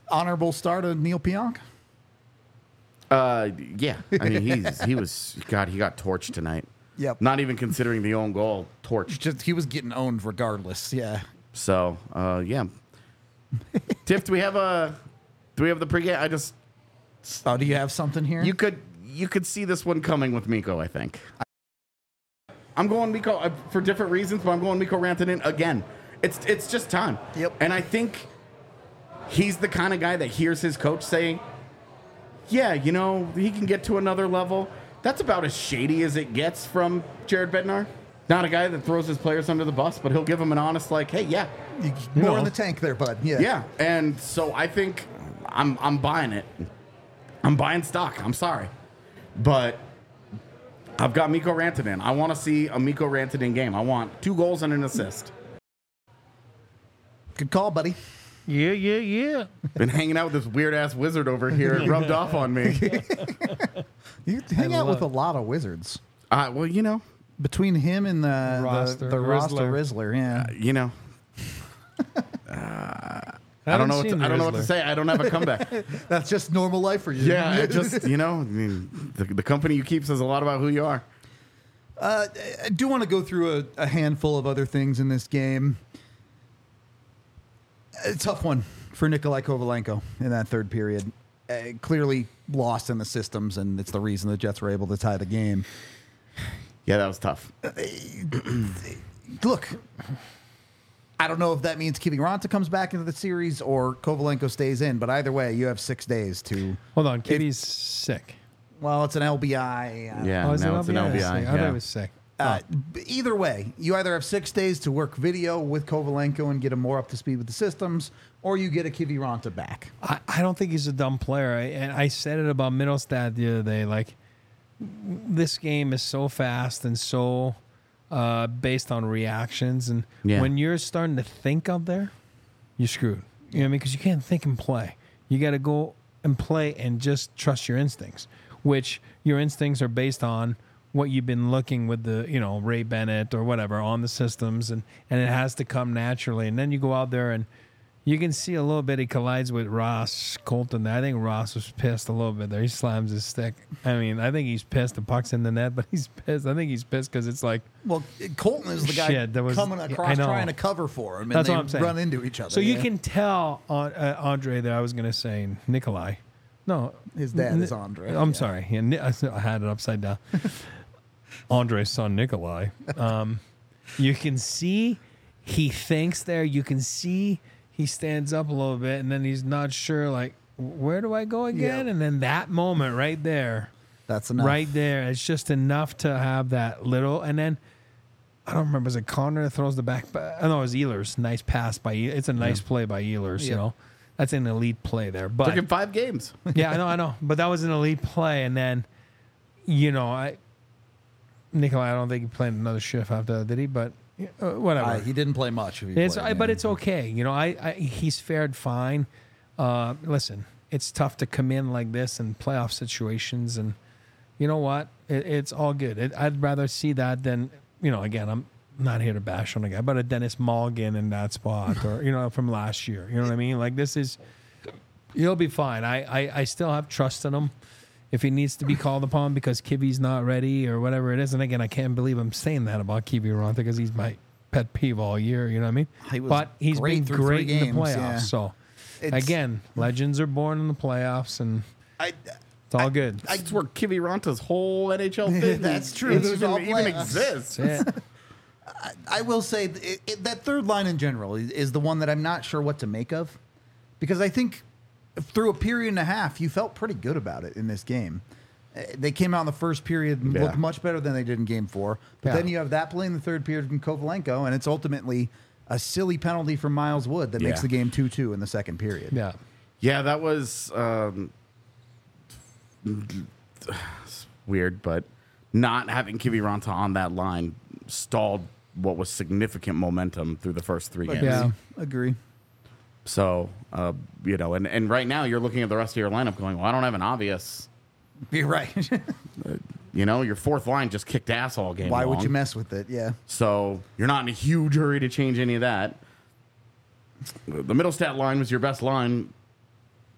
Honorable start of Neil Pionk. Uh, yeah. I mean, he's he was God. He got torched tonight. Yep. Not even considering the own goal, torched. Just he was getting owned regardless. Yeah. So, uh, yeah. Tiff, do we have a do we have the pregame? I just Oh, do you have something here? you could you could see this one coming with Mikko. I think. I'm going Mikko uh, for different reasons, but I'm going Mikko Rantanen again. It's it's just time. Yep. And I think he's the kind of guy that hears his coach saying, "Yeah, you know, he can get to another level." That's about as shady as it gets from Jared Bednar. Not a guy that throws his players under the bus, but he'll give them an honest, like, "Hey, yeah, You- more No. in the tank there, bud. Yeah. yeah." And so I think I'm I'm buying it. I'm buying stock. I'm sorry, but I've got Mikko Rantanen. I want to see a Mikko Rantanen game. I want two goals and an assist. Good call, buddy. Yeah, yeah, yeah. Been hanging out with this weird ass wizard over here. It rubbed off on me. You hang out with love- a lot of wizards. Uh, well, you know, Between him and the Roster the, the roster Rizzler. Rizzler, yeah. you know. I don't know. What to, I don't know what to say. I don't have a comeback. That's just normal life for you. Yeah, I just you know, I mean, the, the company you keep says a lot about who you are. Uh, I do want to go through a, a handful of other things in this game. A tough one for Nikolai Kovalenko in that third period. Uh, clearly lost in the systems, and it's the reason the Jets were able to tie the game. Yeah, that was tough. Look, I don't know if that means Kiviranta comes back into the series or Kovalenko stays in, but either way, you have six days to. Hold on, Kitty's sick. Well, it's an L B I. uh, Yeah, Oh, is it now it's an L L B I? B I. I thought yeah. it was sick. Uh, b- either way, you either have six days to work video with Kovalenko and get him more up to speed with the systems, or you get a Kiviranta back. I, I don't think he's a dumb player. I, and I said it about Middlestad the other day. Like, this game is so fast and so uh, based on reactions. And Yeah. when you're starting to think out there, you're screwed. You know what I mean? Because you can't think and play. You got to go and play and just trust your instincts, which your instincts are based on what you've been looking with the, you know, Ray Bennett or whatever on the systems, and, and it has to come naturally. And then you go out there and you can see a little bit he collides with Ross Colton. I think Ross was pissed a little bit there. He slams his stick. I mean, I think he's pissed. The puck's in the net, but he's pissed. I think he's pissed because it's like, Well, Colton is the guy Shit, that was- coming I across know. trying to cover for him, and That's they what I'm saying. run into each other. so you yeah. can tell on uh, Andre that I was going to say Nikolai. No, His dad Ni- is Andre. I'm yeah. sorry. Yeah, Ni- I had it upside down. Andre's son, Nikolai. Um, you can see he thinks there. You can see he stands up a little bit, and then he's not sure, like, where do I go again? Yeah. And then that moment right there, That's enough. right there, it's just enough to have that little. And then I don't remember, is it Connor that throws the back? Ba- oh, no, it was Ehlers. Nice pass by. E- It's a nice play by Ehlers. You Yeah. know, that's an elite play there. But Took him five games. yeah, I know, I know. But that was an elite play. And then, you know, I Nikolai, I don't think he played another shift after that, did he? But uh, whatever. Uh, he didn't play much. If he it's, played, I, yeah. but it's okay. You know, I, I he's fared fine. Uh, listen, it's tough to come in like this in playoff situations, and you know what? It, it's all good. It, I'd rather see that than, you know. Again, I'm not here to bash on a guy, but a Dennis Mulligan in that spot, or you know, from last year. You know what I mean? Like this is, he'll be fine. I, I, I still have trust in him. If he needs to be called upon because Kivi's not ready or whatever it is, and again, I can't believe I'm saying that about Kiviranta because he's my pet peeve all year. You know what I mean? He was but he's great been through three great in the games, playoffs. yeah. So It's- again, legends are born in the playoffs, and I, it's all good. That's where Kiviranta's whole N H L thing. That's true. Even, This is all even playoffs. exists. That's it. I will say th- it, it, that third line in general is, is the one that I'm not sure what to make of, because I think through a period and a half you felt pretty good about it in this game. Uh, They came out in the first period and Yeah. looked much better than they did in game four. But Yeah. then you have that play in the third period from Kovalenko, and it's ultimately a silly penalty from Miles Wood that makes Yeah. the game two two in the second period. Yeah. Yeah, that was um, weird, but not having Kiviranta on that line stalled what was significant momentum through the first three games. Yeah. Agree. So, uh, you know, and, and right now you're looking at the rest of your lineup going, well, I don't have an obvious. You're right. You know, your fourth line just kicked ass all game Why would long. you mess with it? Yeah. So you're not in a huge hurry to change any of that. The middle stat line was your best line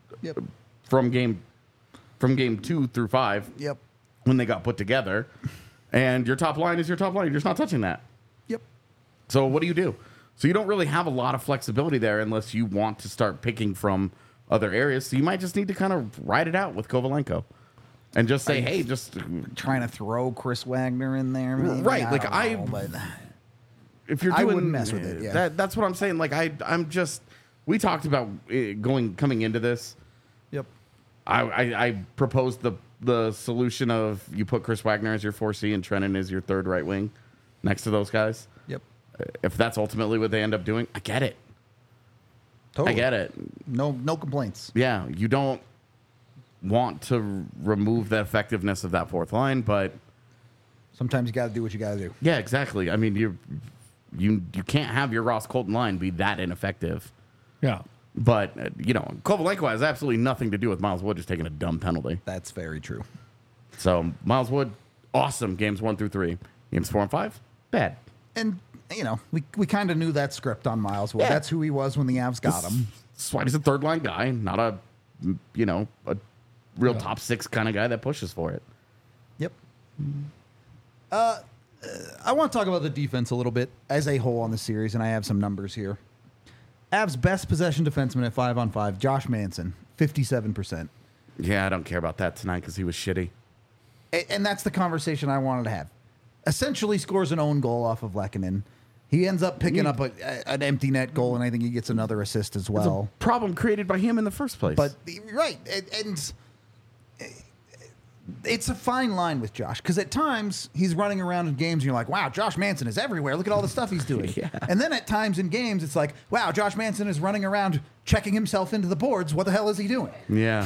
Yep. from game from game two through five Yep. when they got put together. And your top line is your top line. You're just not touching that. Yep. So what do you do? So you don't really have a lot of flexibility there unless you want to start picking from other areas. So you might just need to kind of ride it out with Kovalenko and just say, hey, just Trying to throw Chris Wagner in there. Maybe. Right, like, don't I- know, but if you're I doing wouldn't mess with it, yeah. that, that's what I'm saying. Like I, I'm just. We talked about uh, going coming into this. Yep. I, I, I proposed the the solution of you put Chris Wagner as your four C and Trennan as your third right wing, next to those guys. Yep. If that's ultimately what they end up doing, I get it. Totally. I get it. No, no complaints. Yeah, you don't want to r- remove the effectiveness of that fourth line, but Sometimes you got to do what you got to do. yeah, exactly. I mean, you you you can't have your Ross Colton line be that ineffective. Yeah. But uh, you know, Kovalenko has absolutely nothing to do with Miles Wood just taking a dumb penalty. That's very true. So Miles Wood, awesome games one through three. Games four and five, bad. And you know, we we kind of knew that script on Miles Wood. Yeah. That's who he was when the Avs got him. That's why he's a third line guy, not a you know a real top six kind of guy that pushes for it. Yep. Uh, I want to talk about the defense a little bit as a whole on the series, and I have some numbers here. Avs' best possession defenseman at five on five, Josh Manson, fifty-seven percent. Yeah, I don't care about that tonight because he was shitty. A- And that's the conversation I wanted to have. Essentially scores an own goal off of Lehkonen. He ends up picking up a, a, an empty net goal, and I think he gets another assist as It's well. a problem created by him in the first place. But right, and, and it's a fine line with Josh because at times he's running around in games and you're like, "Wow, Josh Manson is everywhere. Look at all the stuff he's doing." Yeah. And then at times in games it's like, "Wow, Josh Manson is running around checking himself into the boards. What the hell is he doing?" yeah,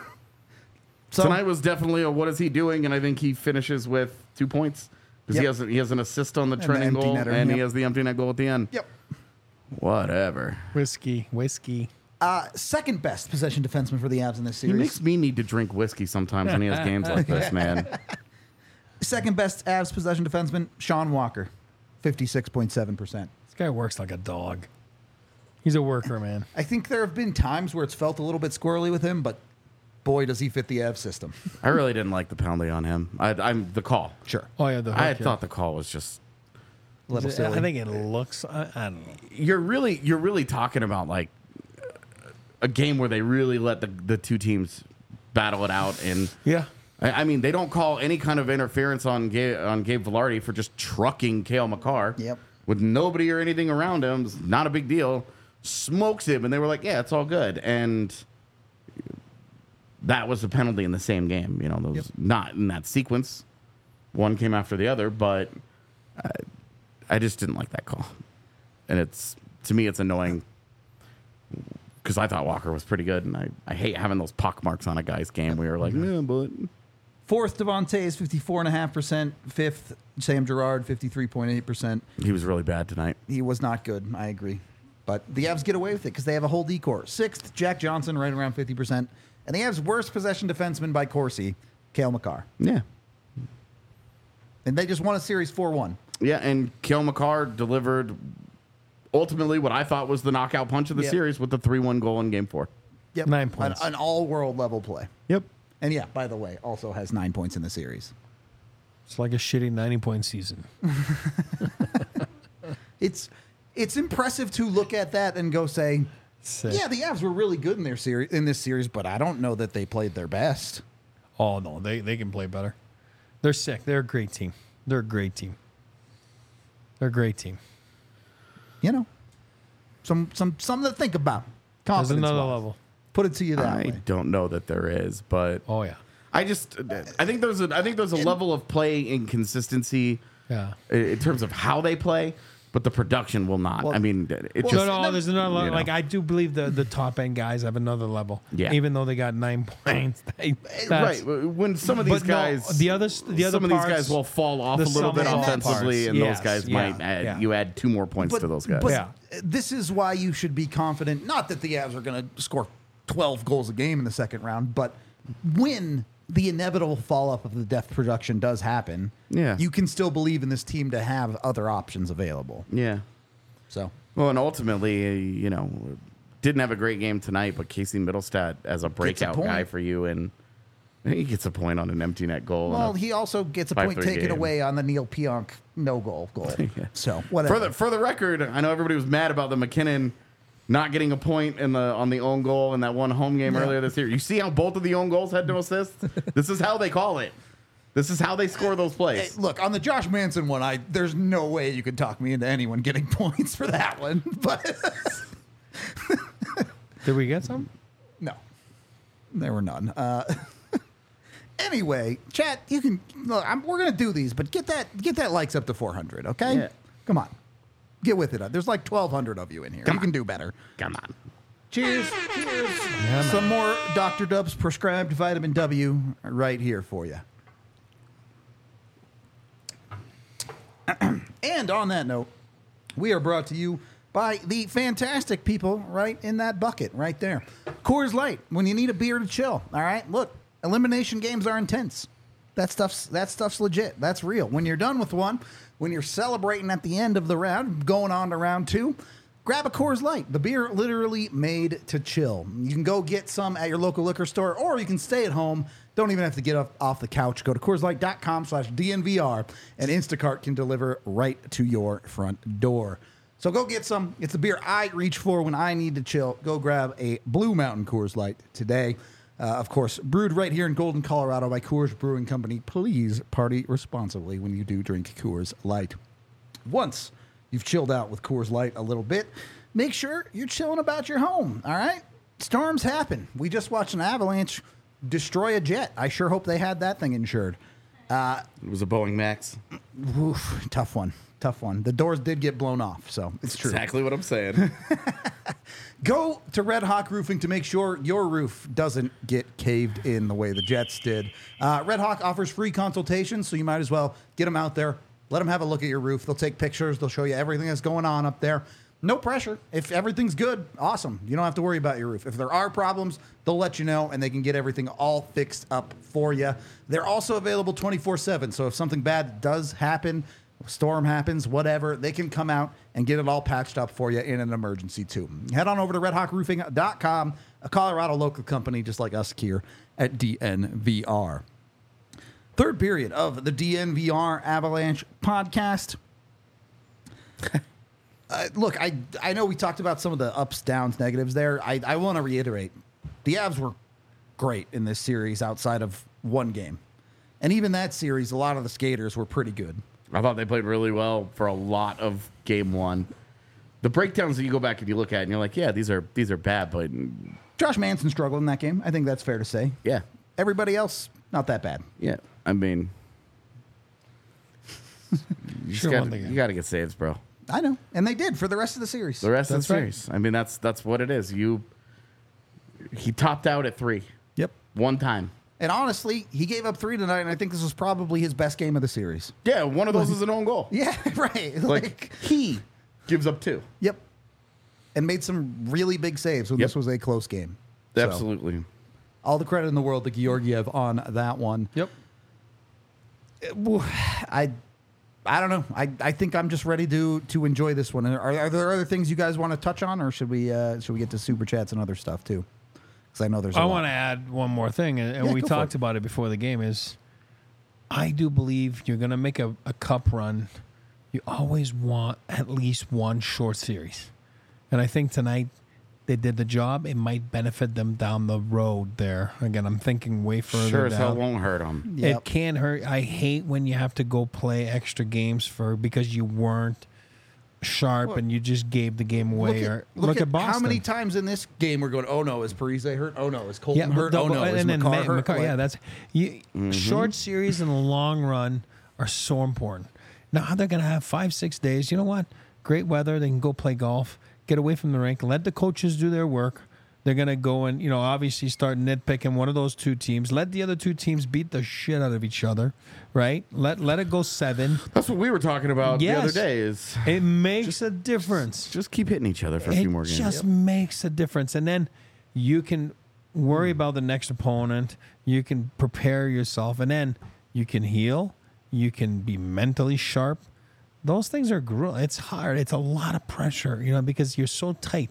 So tonight was definitely a what is he doing, and I think he finishes with two points because he Yep. has he has an assist on the And the trending empty goal, netter, and he yep. has the empty net goal at the end. Yep. Whatever. Whiskey. Whiskey. Uh, second best possession defenseman for the Avs in this He series. makes me need to drink whiskey sometimes when he has games like this, man. Second best Avs possession defenseman, Sean Walker, fifty-six point seven percent. This guy works like a dog. He's a worker, man. I think there have been times where it's felt a little bit squirrely with him, but boy, does he fit the Avs system. I really didn't like the penalty on him. I, I'm the call. Sure. Oh yeah, the hook, I yeah. thought the call was just. A little I silly. think it looks. I, I don't know. You're really you're really talking about like a game where they really let the the two teams battle it out, and Yeah. I, I mean they don't call any kind of interference on Gabe, on Gabe Velarde for just trucking Cale Makar. Yep. With nobody or anything around him, it's not a big deal. Smokes him, and they were like, "Yeah, it's all good." And that was a penalty in the same game. You know, those Yep. not in that sequence. One came after the other, but I, I just didn't like that call. And it's to me, it's annoying because I thought Walker was pretty good, and I, I hate having those pock marks on a guy's game where you're like, no, but Fourth, Devontae is fifty-four point five percent. Fifth, Sam Girard, fifty-three point eight percent. he was really bad tonight. He was not good. I agree. But the Avs get away with it because they have a whole D-core. Sixth, Jack Johnson, right around fifty percent. And the Avs' worst possession defenseman by Corsi, Cale Makar. Yeah. And they just won a series four one. Yeah, and Cale Makar delivered ultimately what I thought was the knockout punch of the Yep. series with the three one goal in game four. Yep. Nine An, points. an all-world level play. Yep. And yeah, by the way, also has nine points in the series. It's like a shitty ninety point season. It's it's impressive to look at that and go say, Sick. yeah, the Avs were really good in their series in this series, but I don't know that they played their best. Oh no, they they can play better. They're sick. They're a great team. They're a great team. They're a great team. You know, some some something to think about. There's Confidence another wise. level. Put it to you that I way. don't know that there is, but Oh yeah. I just I think there's a I think there's a level of play inconsistency Yeah. i- in terms of how they play, but the production will not. Well- I mean, it well, just No, no, there's another level. you know. Like I do believe the the top end guys have another level. Yeah. Even though they got nine points. They, that's- right when some of these But no, guys the other the other some of these parts- guys will fall off the a little sum bit of all offensively, parts. and Yes, those guys yeah, might add, yeah. you add two more points to those guys. But Yeah. this is why you should be confident. Not that the Avs are going to score twelve goals a game in the second round, but when the inevitable fall off of the depth production does happen, Yeah. you can still believe in this team to have other options available. Yeah. So Well, and ultimately, uh, you know, didn't have a great game tonight, but Casey Middlestat as a breakout point. guy for you, and he gets a point on an empty net goal. Well, in a he also gets a five point three taken game. away on the Neil Pionk no goal goal. So whatever. For the for the record, I know everybody was mad about the McKinnon not getting a point in the on the own goal in that one home game Yeah. earlier this year. You see how both of the own goals had no assists? This is how they call it. This is how they score those Hey, plays. look, on the Josh Manson one, I there's no way you could talk me into anyone getting points for that one. But Did we get some? no, there were none. Uh, anyway, chat, you can. Look, I'm, we're gonna do these, but get that get that likes up to four hundred. Okay, Yeah. come on, get with it. There's like twelve hundred of you in here. Come you on. can do better. Come on. Cheers. Cheers. Yeah, Some more Doctor Dub's prescribed vitamin W right here for you. And on that note, we are brought to you by the fantastic people right in that bucket right there. Coors Light, when you need a beer to chill. All right, look, elimination games are intense. That stuff's that stuff's legit. That's real. When you're done with one, when you're celebrating at the end of the round, going on to round two, grab a Coors Light. The beer literally made to chill. You can go get some at your local liquor store, or you can stay at home. Don't even have to get off, off the couch. Go to CoorsLight.com slash DNVR, and Instacart can deliver right to your front door. So go get some. It's the beer I reach for when I need to chill. Go grab a Blue Mountain Coors Light today. Uh, of course, brewed right here in Golden, Colorado by Coors Brewing Company. Please party responsibly when you do drink Coors Light. Once you've chilled out with Coors Light a little bit, make sure you're chilling about your home, all right? Storms happen. We just watched an avalanche destroy a jet. I sure hope they had that thing insured. It was a Boeing Max. Oof, tough one. Tough one. The doors did get blown off, so it's true. Exactly what I'm saying. Go to Red Hawk Roofing to make sure your roof doesn't get caved in the way the Jets did. Uh, Red Hawk offers free consultations, so you might as well get them out there. Let them have a look at your roof. They'll take pictures. They'll show you everything that's going on up there. No pressure. If everything's good, awesome. You don't have to worry about your roof. If there are problems, they'll let you know, and they can get everything all fixed up for you. They're also available twenty-four seven, so if something bad does happen, storm happens, whatever, they can come out and get it all patched up for you in an emergency, too. Head on over to red hawk roofing dot com, a Colorado local company just like us here at D N V R. Third period of the D N V R Avalanche podcast. Uh, look, I I know we talked about some of the ups, downs, negatives there. I, I want to reiterate, the Avs were great in this series outside of one game. And even that series, a lot of the skaters were pretty good. I thought they played really well for a lot of game one. The breakdowns that you go back and you look at, and you're like, yeah, these are these are bad, but Josh Manson struggled in that game. I think that's fair to say. yeah, Everybody else, not that bad. yeah. I mean, you just Sure gotta, won the game. you got to get saves, bro. I know. And they did for the rest of the series. The rest That's of the right. series. I mean, that's that's what it is. You he topped out at three Yep. one time. And honestly, he gave up three tonight, and I think this was probably his best game of the series. Yeah, one of those is an own goal. Yeah, right. Like, Like, he gives up two. yep. And made some really big saves when Yep. this was a close game. So, Absolutely. all the credit in the world to Georgiev on that one. Yep. I I don't know. I, I think I'm just ready to to enjoy this one. Are, are there other things you guys want to touch on, or should we uh, should we get to super chats and other stuff too? Because I know there's. A I lot. want to add one more thing, and, and Yeah, we go for talked it. about it before the game. Is I do believe you're going to make a, a cup run. You always want at least one short series, and I think tonight they did the job. It might benefit them down the road. There again, I'm thinking way further Sure as hell down. won't hurt him. Yep. It can hurt. I hate when you have to go play extra games for because you weren't sharp Look, and you just gave the game Look away. at, or look look at at Boston. how many times in this game we're going, oh no, is Parise hurt? Oh no, is Colton but hurt? the- Oh no, is and then McCarr Ma- hurt? McCarr- Like, yeah, that's you, short series in the long run are so important. Now they're going to have five, six days. You know what? Great weather. They can go play golf, get away from the rink, let the coaches do their work. They're going to go and, you know, obviously start nitpicking one of those two teams. Let the other two teams beat the shit out of each other, right? Let let it go seven. That's what we were talking about the Yes. other day is It makes a difference. just keep hitting each other for a It few more games. just makes a difference. And then you can worry about the next opponent. You can prepare yourself. And then you can heal. You can be mentally sharp. Those things are grueling. It's hard. It's a lot of pressure, you know, because you're so tight.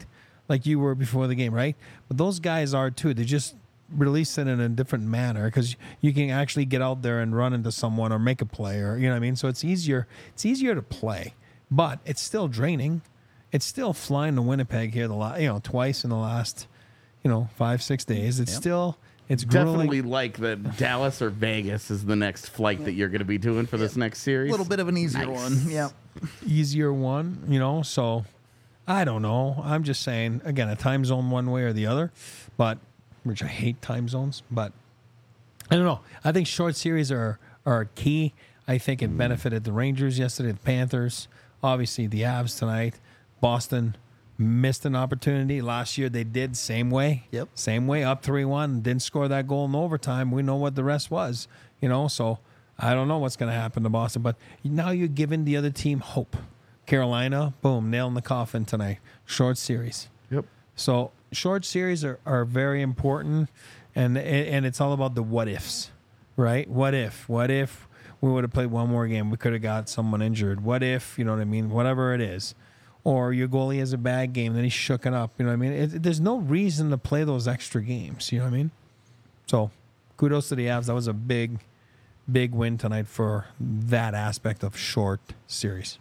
like you were before the game, right? But those guys are too. They just release it in a different manner because you can actually get out there and run into someone or make a play, or you know what I mean. So it's easier. It's easier to play, but it's still draining. It's still flying to Winnipeg here the la- you know twice in the last you know five six days. It's Yep. still it's grueling. Definitely like that Dallas or Vegas is the next flight that you're going to be doing for this next A series. little bit of an easier Nice. one. Yeah. easier one, you know. So I don't know. I'm just saying again, a time zone one way or the other, but which I hate time zones, but I don't know. I think short series are are key. I think it benefited the Rangers yesterday, the Panthers, obviously the Avs tonight. Boston missed an opportunity last year. They did same way. Yep. Same way, up three one, didn't score that goal in overtime. We know what the rest was, you know. So I don't know what's going to happen to Boston, but now you're giving the other team hope. Carolina, boom, nail in the coffin tonight. Short series. Yep. So short series are, are very important, and and it's all about the what ifs, right? What if? What if we would have played one more game? We could have got someone injured. What if, you know what I mean? Whatever it is. Or your goalie has a bad game, then he's shooken up. You know what I mean? It, there's no reason to play those extra games. You know what I mean? So kudos to the Avs. That was a big, big win tonight for that aspect of short series.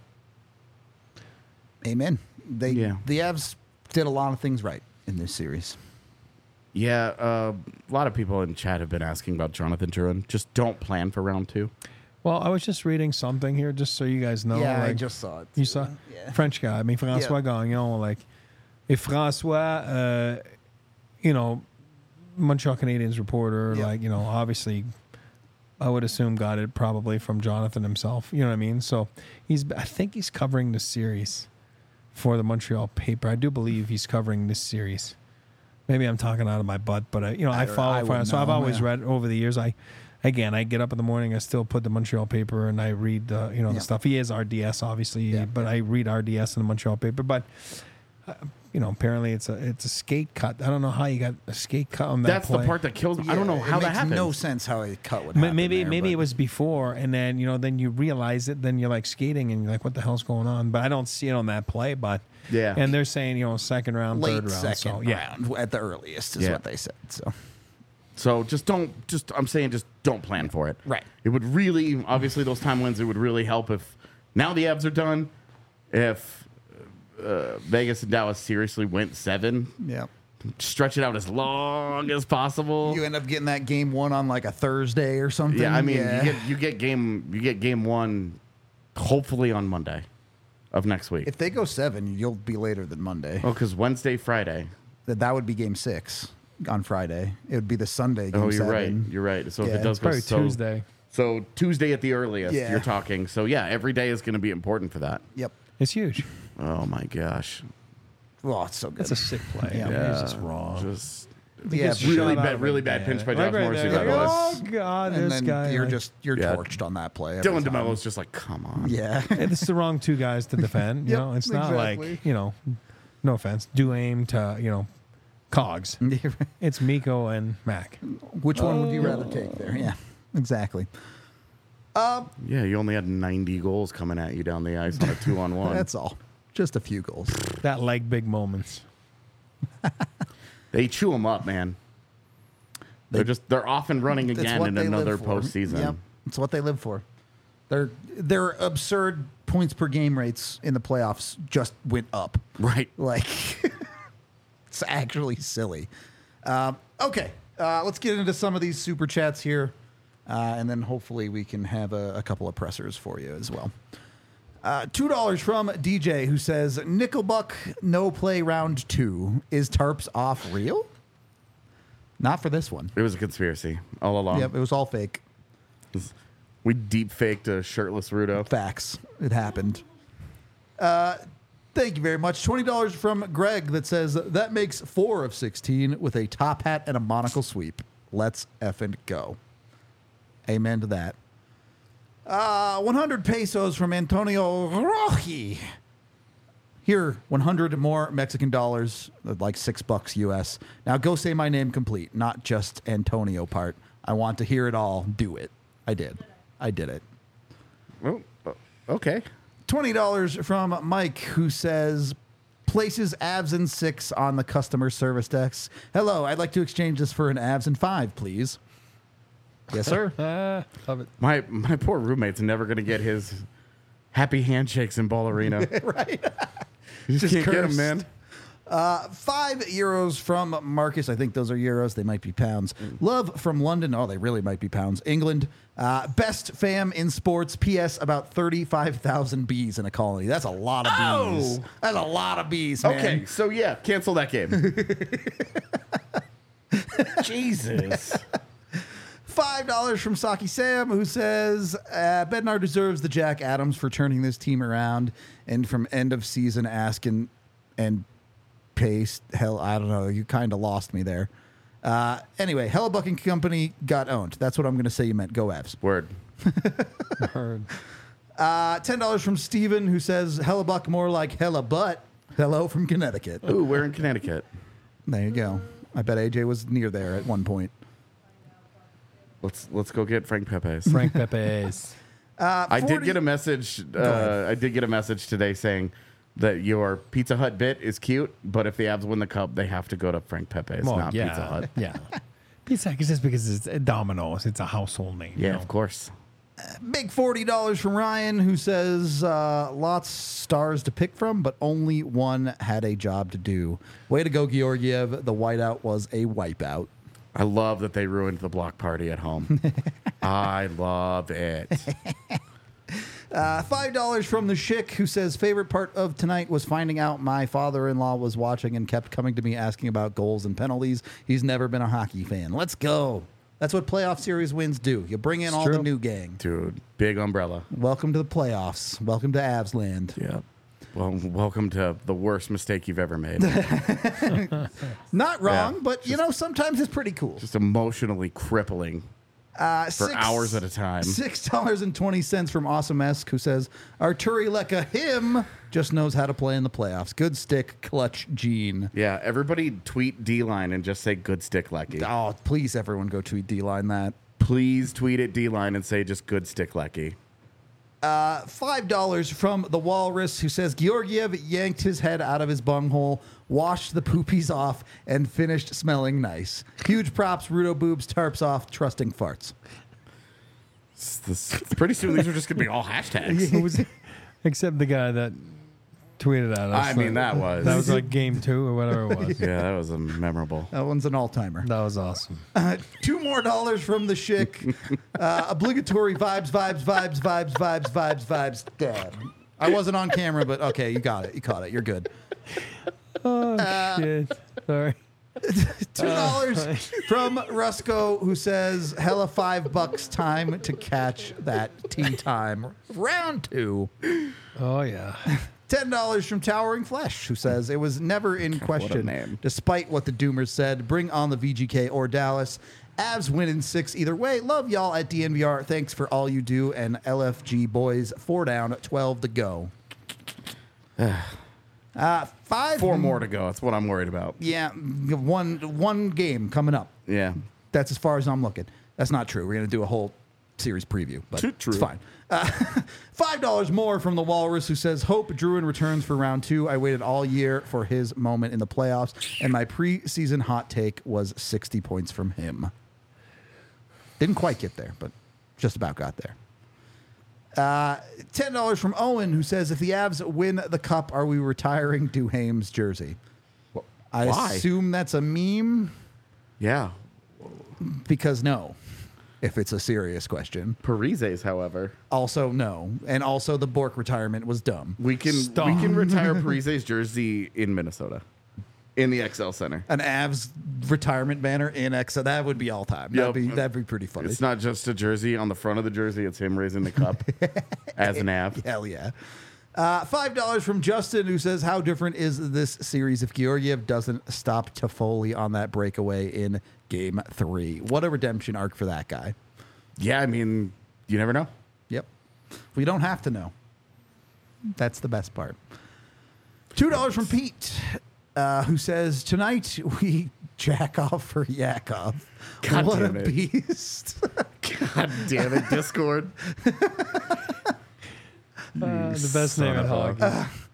Amen. They Yeah. the Avs did a lot of things right in this series. Yeah, uh, a lot of people in chat have been asking about Jonathan Drouin. Just don't plan for round two. Well, I was just reading something here, just so you guys know. yeah, I like, just saw it. You too. saw Yeah. French guy. I mean, François Gagnon, like, if François, uh, you know, Montreal Canadiens reporter, Yeah. like, you know, obviously, I would assume got it probably from Jonathan himself. You know what I mean? So he's, I think he's covering the series for the Montreal paper. I do believe he's covering this series. Maybe I'm talking out of my butt, but I, you know, I, I- follow I would François. I've know, always yeah. read over the years. I. Again, I get up in the morning. I still put the Montreal paper and I read the you know Yeah. the stuff. He is R D S, obviously, Yeah. but I read R D S in the Montreal paper. But uh, you know, apparently it's a it's a skate cut. I don't know how you got a skate cut on that. That's play. the part that kills me. I don't know Yeah, how it that makes happened. no sense how a cut would Ma- happen. Maybe there, maybe but- it was before, and then you know then you realize it. Then you're like skating, and you're like, what the hell's going on? But I don't see it on that play. But Yeah. and they're saying you know second round, late third round. second so yeah, round at the earliest is Yeah. what they said. So So just don't, just, I'm saying just don't plan for it. Right. It would really, obviously, those timelines, it would really help if now the Avs are done, if uh, Vegas and Dallas seriously went seven, yeah, stretch it out as long as possible. you end up getting that game one on like a Thursday or something. yeah, I mean, yeah. you get you get game you get game one, hopefully on Monday of next week. if they go seven, you'll be later than Monday. oh, because Wednesday, Friday. That that would be game six on Friday. It would be the Sunday game Oh, you're seven. right. You're right. So if Yeah. it does go probably so, Tuesday. so Tuesday at the earliest, Yeah. you're talking. So yeah, every day is going to be important for that. Yep. It's huge. Oh my gosh. Oh, it's so good. That's a sick play. Yeah. I mean, Yeah, it's just wrong. Just yeah, Gets but- really shot out bad, of really it, bad yeah. pinch by Right, Josh right Morrissey. there. That Like, was. oh god, and this then guy. you're like- just you're Yeah. torched on that play. every Dylan time. DeMello's just like, come on. Yeah. it's the wrong two guys to defend. You Yep, know, it's not exactly. like you know, no offense, do aim to you know, Cogs. It's Miko and Mac. Which one would you rather take there? Yeah, exactly. Yeah, you only had ninety goals coming at you down the ice on a two on one. That's all. Just a few goals. That like big moments. They chew them up, man. They, are just they're off and running It's again what in they live another for. postseason. Yep. It's what they live for. Their their absurd points per game rates in the playoffs just went up. Right. Like, it's actually silly. Um, okay, uh, let's get into some of these super chats here, uh, and then hopefully we can have a, a couple of pressers for you as well. Uh, Two dollars from D J who says Nickelbuck no play round two. Is tarps off real? Not for this one. It was a conspiracy all along. Yep, it was all fake. We deep faked a shirtless Rudo. Facts. It happened. Uh, thank you very much. twenty dollars from Greg that says that makes four of sixteen with a top hat and a monocle sweep. Let's effing go. Amen to that. Uh, one hundred pesos from Antonio Roji. Here, one hundred more Mexican dollars, like six bucks U S. Now go say my name complete, not just Antonio part. I want to hear it all. Do it. I did. I did it. Oh, oh, okay. twenty dollars from Mike, who says, places Avs in six on the customer service desk. Hello, I'd like to exchange this for an Avs in five, please. Yes, sir. Ah, love it. My my poor roommate's never gonna get his happy handshakes in Ball Arena. Right. You just, Just can't get cursed. him, man. Uh, five euros from Marcus. I think those are euros. They might be pounds. Love from London. Oh, they really might be pounds. England. Uh, best fam in sports. P S. About thirty-five thousand bees in a colony. That's a lot of bees. Oh. That's a lot of bees, man. Okay, so yeah, cancel that game. Jesus. Five dollars from Saki Sam, who says uh, Bednar deserves the Jack Adams for turning this team around, and from end of season asking and pace. Hell, I don't know. You kind of lost me there. Uh, anyway, Hellebuck and Company got owned. That's what I'm going to say. You meant go Avs. Word. Heard. Uh, Ten dollars from Steven, who says Hellebuck more like hella butt. Hello from Connecticut. Ooh, we're in Connecticut. There you go. I bet A J was near there at one point. Let's let's go get Frank Pepe's. Frank Pepe's. Uh, I did forty get a message. ahead. Uh, I did get a message today saying that your Pizza Hut bit is cute, but if the Avs win the cup, they have to go to Frank Pepe's, Well, not yeah, Pizza Hut. Yeah. Pizza Hut is just because it's uh, Domino's. It's a household name. Yeah, you know? of course. Big forty dollars from Ryan, who says uh, lots stars to pick from, but only one had a job to do. Way to go, Georgiev. The whiteout was a wipeout. I love that they ruined the block party at home. I love it. Uh, five dollars from the Schick, who says favorite part of tonight was finding out my father-in-law was watching and kept coming to me asking about goals and penalties. He's never been a hockey fan. Let's go. That's what playoff series wins do. You bring in It's all the true. new gang. Dude, big umbrella. Welcome to the playoffs. Welcome to Avs land. Yeah. Well, welcome to the worst mistake you've ever made. Not wrong, Yeah, but you know, sometimes it's pretty cool. Just emotionally crippling Uh, for hours at a time. Six dollars and twenty cents from Awesome Esque, who says Arturi Leka him just knows how to play in the playoffs. Good stick, clutch gene. Yeah, everybody tweet D-Line and just say good stick, Lecky. Oh, please, everyone, go tweet D-line that. Please tweet at D-Line and say just good stick, Lecky. Uh, Five dollars from the Walrus, who says Georgiev yanked his head out of his bunghole, washed the poopies off, and finished smelling nice. Huge props, Rudo boobs, tarps off, trusting farts. It's this- pretty soon these are just going to be all hashtags. Who was, except the guy that tweeted at us. I mean, that was... That was like game two or whatever it was. Yeah, that was a memorable. That one's an all-timer. That was awesome. Uh, two more dollars from the Schick. Uh, obligatory vibes, vibes, vibes, vibes, vibes, vibes, vibes. Dad. I wasn't on camera, but okay, you got it. You caught it. You're good. Oh, shit. Sorry. Two dollars from Rusco, who says, hella five bucks time to catch that tea time. Round two. Oh, yeah. Ten dollars from Towering Flesh, who says it was never in question, name. despite what the Doomers said. Bring on the V G K or Dallas. Avs win in six either way. Love y'all at D N V R. Thanks for all you do. And L F G boys, four down, twelve to go. uh, five Four more to go. That's what I'm worried about. Yeah, one one game coming up. Yeah. That's as far as I'm looking. That's not true. We're going to do a whole series preview, but True. it's fine. Uh, Five dollars more from the Walrus, who says, hope Druin returns for round two. I waited all year for his moment in the playoffs, and my preseason hot take was sixty points from him. Didn't quite get there, but just about got there. Uh, ten dollars from Owen, who says, if the Avs win the cup, are we retiring Duhaime's jersey? I Why? assume that's a meme, Yeah. because no, if it's a serious question. Parises, however. Also, no. And also, the Bork retirement was dumb. We can Stop. we can retire Parise's jersey in Minnesota. In the X L Center. An Avs retirement banner in X, that would be all time. That'd, Yep. be, that'd be pretty funny. It's not just a jersey. On the front of the jersey, it's him raising the cup as an Av. Hell yeah. Uh, Five dollars from Justin, who says, how different is this series if Georgiev doesn't stop Toffoli on that breakaway in game three? What a redemption arc for that guy. Yeah, I mean, you never know. Yep. We don't have to know. That's the best part. Two dollars from Pete, uh, who says, tonight we jack off for Yakov. God what damn a it. beast. God damn it, Discord. Uh, the best son name in of a- hockey.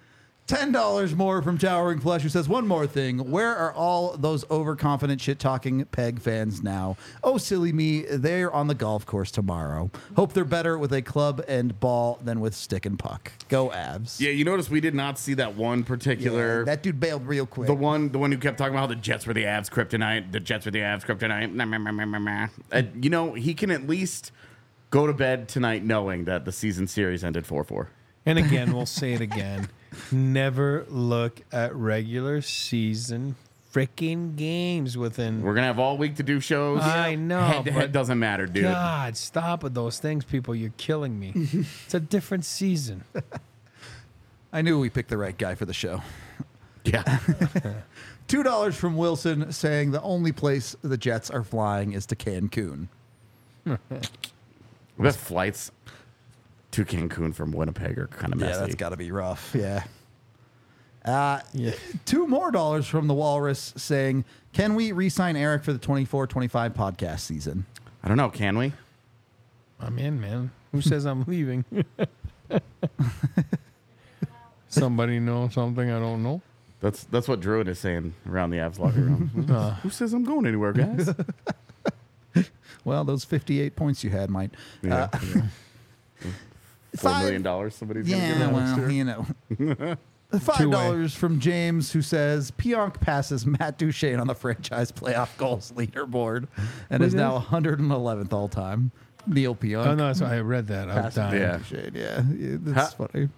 ten dollars more from Towering Flesh, who says, one more thing. Where are all those overconfident shit-talking Peg fans now? Oh, silly me. They're on the golf course tomorrow. Hope they're better with a club and ball than with stick and puck. Go Avs. Yeah, you notice we did not see that one particular... Yeah, that dude bailed real quick. The one, the one who kept talking about how the Jets were the Avs kryptonite. The Jets were the Avs kryptonite. Nah, nah, nah, nah, nah, nah. And, you know, he can at least go to bed tonight knowing that the season series ended four four. And again, we'll say it again. Never look at regular season freaking games within. We're gonna have all week to do shows. I know, Head to head but doesn't matter, dude. God, stop with those things, people. You're killing me. It's a different season. I knew we picked the right guy for the show. Yeah. two dollars from Wilson saying the only place the Jets are flying is to Cancun. The flights to Cancun from Winnipeg are kind of messy. Yeah, that's got to be rough. Yeah. Uh, Yeah. Two more dollars from the Walrus saying, can we re-sign Eric for the twenty-four twenty-five podcast season? I don't know. Can we? I'm in, man. Who says I'm leaving? Somebody know something I don't know? That's that's what Druid is saying around the Avs locker room. Uh, Who says I'm going anywhere, guys? Well, those fifty-eight points you had might. Yeah. Uh, yeah. Four Five- million dollars. Somebody's gonna give Yeah, that next well, year. you know. Five dollars from James, who says Pionk passes Matt Duchene on the franchise playoff goals leaderboard and What is is now it? one hundred eleventh all time. Neil Pionk. oh, no, so I read that. I was passes dying. Yeah. Matt Duchene. Yeah, yeah, that's Ha- funny.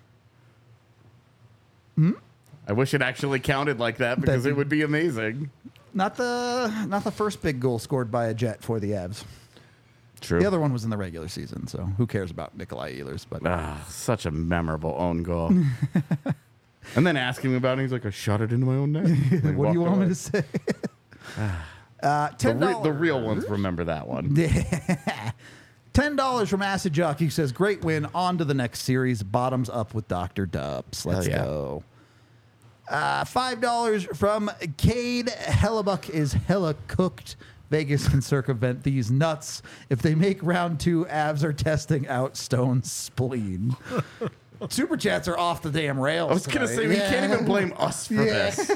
I wish it actually counted like that because That'd it would be amazing. Not the not the first big goal scored by a Jet for the Avs. True. The other one was in the regular season, so who cares about Nikolai Ehlers? But Ah, such a memorable own goal. And then asking him about it, he's like, I shot it into my own net. And what do you walked want me away. to say? uh, The, ten re- dollars. the real ones remember that one. Ten dollars from Acid Jockey, who says, "Great win. On to the next series. Bottoms up with Doctor Dubs. Let's Hell yeah. go." Uh, Five dollars from Cade. Hellebuck is hella cooked. Vegas can circumvent these nuts if they make round two. Avs are testing out Stone's spleen. Super chats are off the damn rails. I was going to tonight. say, we Yeah. can't even blame us for Yeah. this.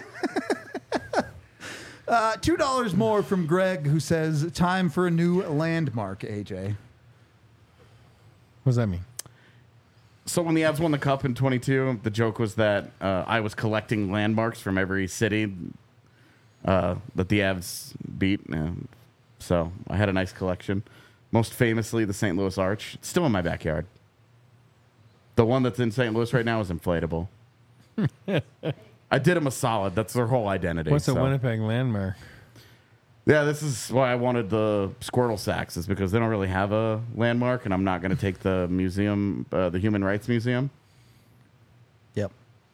Uh, Two dollars more from Greg, who says, "Time for a new landmark." A J. What does that mean? So when the Avs won the Cup in twenty-two, the joke was that uh, I was collecting landmarks from every city uh, that the Avs beat. Uh, so I had a nice collection. Most famously, the Saint Louis Arch. It's still in my backyard. The one that's in Saint Louis right now is inflatable. I did them a solid. That's their whole identity. What's a so. Winnipeg landmark? Yeah, this is why I wanted the Squirtle sacks, is because they don't really have a landmark, and I'm not going to take the museum, uh, the Human Rights Museum. Yep.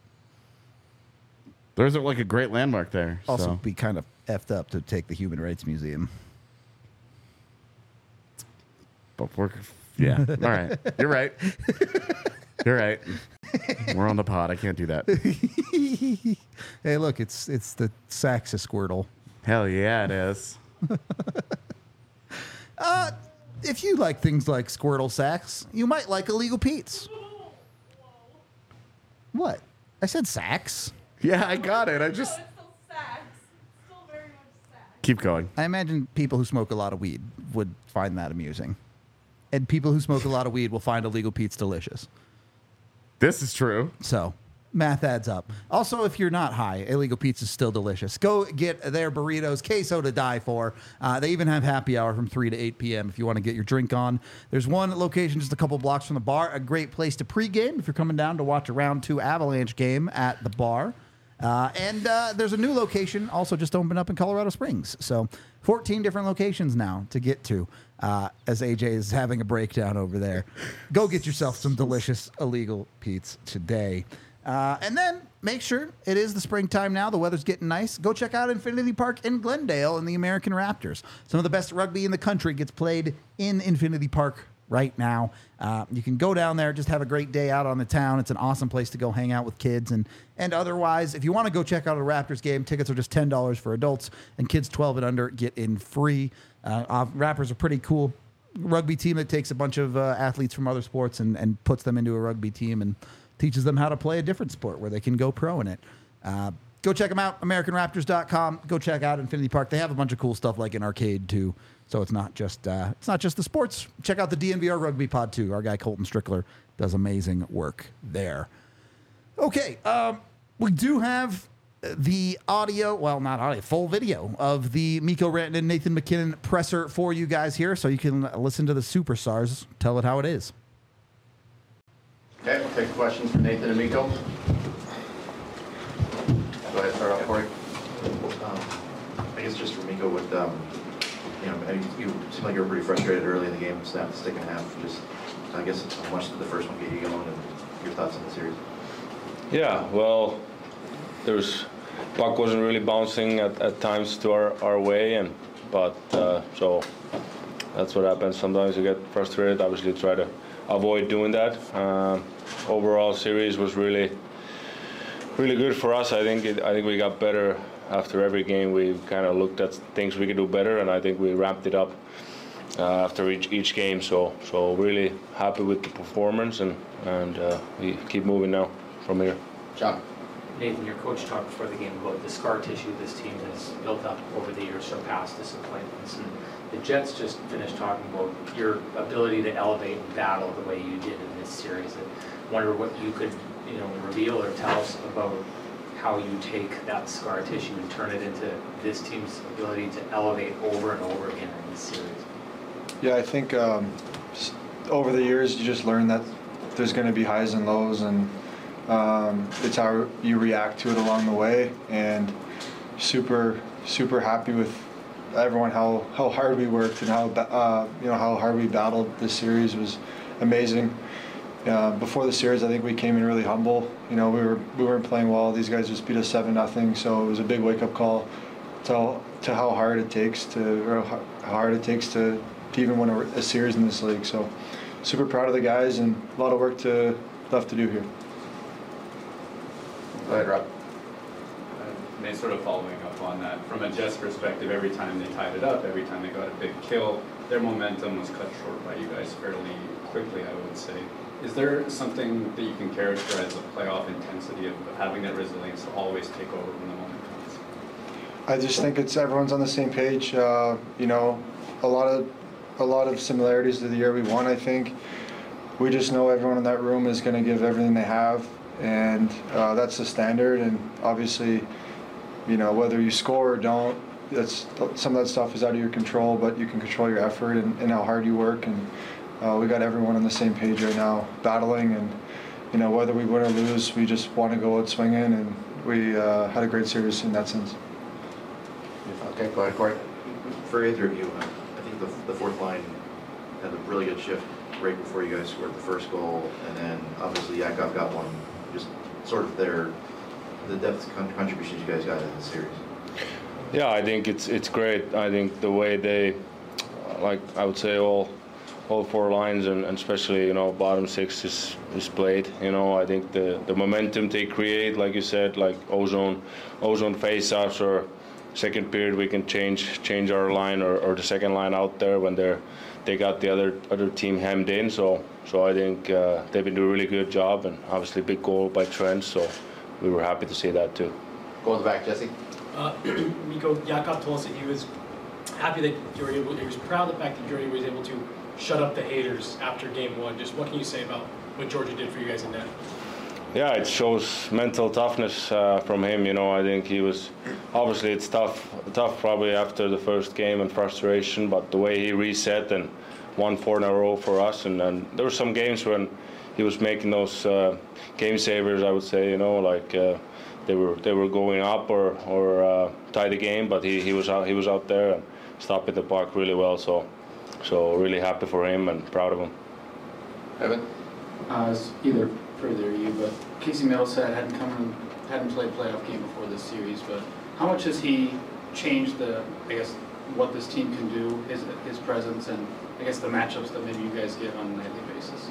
There's like a great landmark there. Also, so. be kind of effed up to take the Human Rights Museum. But we're, yeah, all right. You're right. You're right. We're on the pod. I can't do that. Hey, look, it's it's the Saxa Squirtle. Hell yeah, it is. If you like things like Squirtle sacks, you might like Illegal Pete's. What? I said sacks. Yeah, I got it. I just It's still sacks. It's still very much sacks. keep going. I imagine people who smoke a lot of weed would find that amusing. And people who smoke a lot of weed will find Illegal Pete's delicious. This is true. So, math adds up. Also, if you're not high, Illegal Pete's is still delicious. Go get their burritos, queso to die for. Uh, they even have happy hour from three to eight p.m. if you want to get your drink on. There's one location just a couple blocks from the bar. A great place to pregame if you're coming down to watch a round two Avalanche game at the bar. Uh, and uh, there's a new location also just opened up in Colorado Springs. So fourteen different locations now to get to uh, as A J is having a breakdown over there. Go get yourself some delicious Illegal Pete's today. Uh, and then make sure it is the springtime now. The weather's getting nice. Go check out Infinity Park in Glendale and the American Raptors. Some of the best rugby in the country gets played in Infinity Park right now. Uh, you can go down there, just have a great day out on the town. It's an awesome place to go hang out with kids. And, and otherwise, if you want to go check out a Raptors game, tickets are just ten dollars for adults, and kids twelve and under get in free. Uh, uh, Raptors are pretty cool rugby team that takes a bunch of uh, athletes from other sports and, and puts them into a rugby team and teaches them how to play a different sport where they can go pro in it. Uh, go check them out, American Raptors dot com. Go check out Infinity Park. They have a bunch of cool stuff like an arcade too. So it's not just uh, it's not just the sports. Check out the D N V R Rugby Pod too. Our guy Colton Strickler does amazing work there. Okay, um, we do have the audio, well, not audio, full video of the Mikko Rantanen, Nathan MacKinnon presser for you guys here, so you can listen to the superstars tell it how it is. Okay, we'll take questions from Nathan and Mikko. Go ahead, start off, Corey. Um, I guess just for Mikko, with um, you know, I- you seemed like you were pretty frustrated early in the game, snapped the stick in half. Just, I guess, how much did the first one get you going, and your thoughts on the series? Yeah, well, there was puck wasn't really bouncing at, at times to our, our way, and but uh, so that's what happens. Sometimes you get frustrated. Obviously, try to avoid doing that. Um, overall, series was really really good for us. I think it, I think we got better after every game. We kind of looked at things we could do better, and I think we ramped it up uh, after each each game. So so really happy with the performance, and and uh, we keep moving now from here. John. Nathan, your coach talked before the game about the scar tissue this team has built up over the years from past disappointments. And the Jets just finished talking about your ability to elevate and battle the way you did in this series. I wonder what you could, you know, reveal or tell us about how you take that scar tissue and turn it into this team's ability to elevate over and over again in this series. Yeah, I think um, s- over the years you just learn that there's going to be highs and lows, and um, it's how you react to it along the way. And super, super happy with everyone how, how hard we worked and how ba- uh, you know how hard we battled. This series was amazing. Uh, before the series, I think we came in really humble. You know, we were we weren't playing well. These guys just beat us seven nothing. So it was a big wake up call to to how hard it takes to or how hard it takes to, to even win a, a series in this league. So super proud of the guys, and a lot of work to left to do here. Go ahead, Rob. And they sort of following up on that, from a Jets perspective, every time they tied it up, every time they got a big kill, their momentum was cut short by you guys fairly quickly, I would say. Is there something that you can characterize the playoff intensity of having that resilience to always take over when the moment comes? I just think it's everyone's on the same page. Uh, you know, a lot of a lot of similarities to the year we won. I think we just know everyone in that room is going to give everything they have, and uh, that's the standard. And obviously, you know, whether you score or don't, that's some of that stuff is out of your control. But you can control your effort and, and how hard you work. And uh, we got everyone on the same page right now, battling. And you know, whether we win or lose, we just want to go out swinging. And we uh, had a great series in that sense. Okay, go ahead, Corey. For either of you, uh, I think the, the fourth line had a really good shift right before you guys scored the first goal, and then obviously Yakov got one. Just sort of their the depth con- contributions you guys got in the series. Yeah, I think it's it's great. I think the way they, uh, like I would say, all all four lines and, and especially you know bottom six is, is played. You know, I think the, the momentum they create, like you said, like ozone ozone face-offs or second period we can change change our line or, or the second line out there when they're they got the other other team hemmed in. So so I think uh, they've been doing a really good job, and obviously big goal by Trent. So we were happy to see that too. Go in the back, Jesse. Uh, Mikko, Yakov told us that he was happy that you were able, he was proud of the fact that Georgia was able to shut up the haters after game one. Just what can you say about what Georgia did for you guys in net? Yeah, it shows mental toughness uh, from him. You know, I think he was obviously it's tough, tough probably after the first game and frustration. But the way he reset and won four in a row for us, and, and there were some games when he was making those uh, game savers. I would say, you know, like uh, they were they were going up or or uh, tie the game, but he, he was out he was out there and stopping the puck really well. So so really happy for him and proud of him. Evan. Uh, it's either for either of you, but Casey Middleset hadn't come in, hadn't played a playoff game before this series. But how much has he changed the, I guess, what this team can do, his his presence, and I guess the matchups that maybe you guys get on a nightly basis?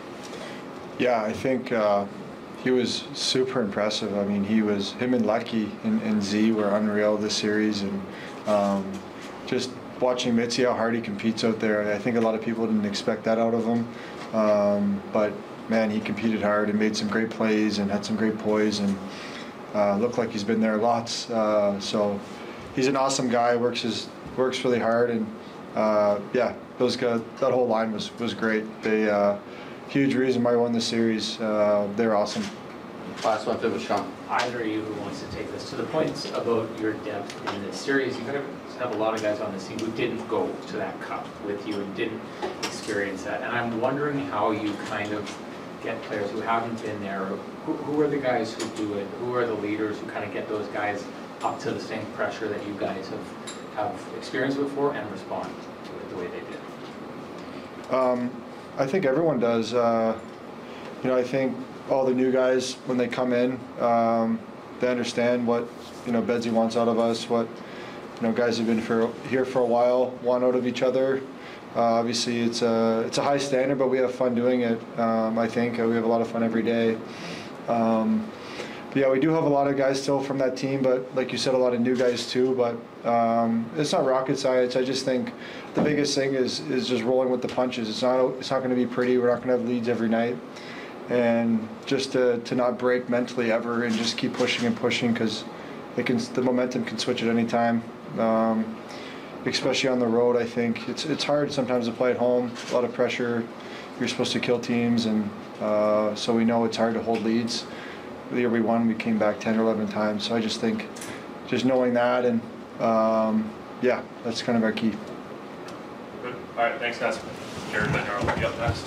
Yeah, I think uh, he was super impressive. I mean, he was him and Lucky and, and Z were unreal this series, and um, just watching Mitzi how hard he competes out there. I think a lot of people didn't expect that out of him, um, but man, he competed hard and made some great plays and had some great poise and uh, looked like he's been there lots. Uh, so he's an awesome guy. Works his works really hard, and uh, yeah, those guys, that whole line was was great. They uh, huge reason why I won the series. Uh, they're awesome. Last one, with Sean. Either of you who wants to take this to the points about your depth in this series, you kind of have a lot of guys on this team who didn't go to that cup with you and didn't experience that. And I'm wondering how you kind of get players who haven't been there. Who, who are the guys who do it? Who are the leaders who kind of get those guys up to the same pressure that you guys have, have experienced before and respond to it the way they did? Um, I think everyone does. Uh, you know, I think all the new guys, when they come in, um, they understand what, you know, Bedsy wants out of us, what, you know, guys who've been for, here for a while want out of each other. Uh, obviously, it's a, it's a high standard, but we have fun doing it, um, I think. Uh, we have a lot of fun every day. Um, but yeah, we do have a lot of guys still from that team, but like you said, a lot of new guys too. But um, it's not rocket science. I just think the biggest thing is is just rolling with the punches. It's not, it's not going to be pretty. We're not going to have leads every night. And just to, to not break mentally ever and just keep pushing and pushing, because it can, the momentum can switch at any time, um, especially on the road. I think it's it's hard sometimes to play at home, a lot of pressure. You're supposed to kill teams, and uh, so we know it's hard to hold leads. The year we won, we came back ten or eleven times. So I just think just knowing that, and um, yeah, that's kind of our key. Good. All right, thanks guys. Jared Bednar will be up next.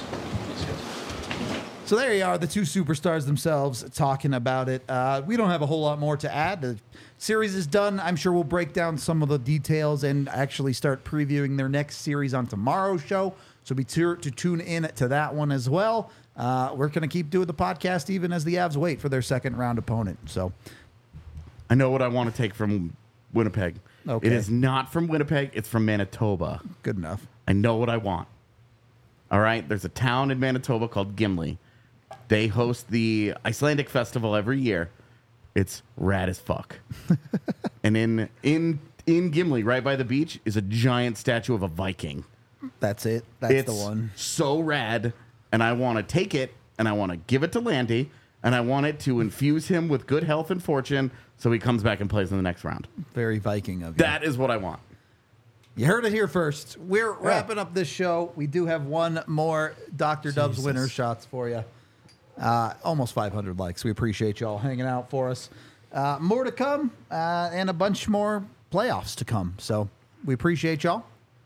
So there you are, the two superstars themselves talking about it. Uh, we don't have a whole lot more to add. The series is done. I'm sure we'll break down some of the details and actually start previewing their next series on tomorrow's show. So be sure to tune in to that one as well. Uh, we're going to keep doing the podcast even as the Avs wait for their second round opponent. So I know what I want to take from Winnipeg. Okay. It is not from Winnipeg. It's from Manitoba. Good enough. I know what I want. All right. There's a town in Manitoba called Gimli. They host the Icelandic festival every year. It's rad as fuck. And in in in Gimli, right by the beach, is a giant statue of a Viking. That's it. That's it's the one. So rad, and I want to take it and I want to give it to Landy, and I want it to infuse him with good health and fortune, so he comes back and plays in the next round. Very Viking of you. That is what I want. You heard it here first. We're wrapping up this show. We do have one more Doctor Dubs Jesus. winner shots for you. Uh, almost five hundred likes. We appreciate y'all hanging out for us. Uh, more to come, uh, and a bunch more playoffs to come. So we appreciate y'all.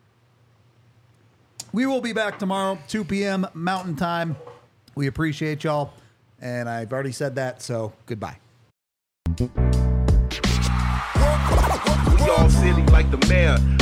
We will be back tomorrow, two p.m. Mountain Time. We appreciate y'all. And I've already said that, so goodbye. We all silly like the mayor.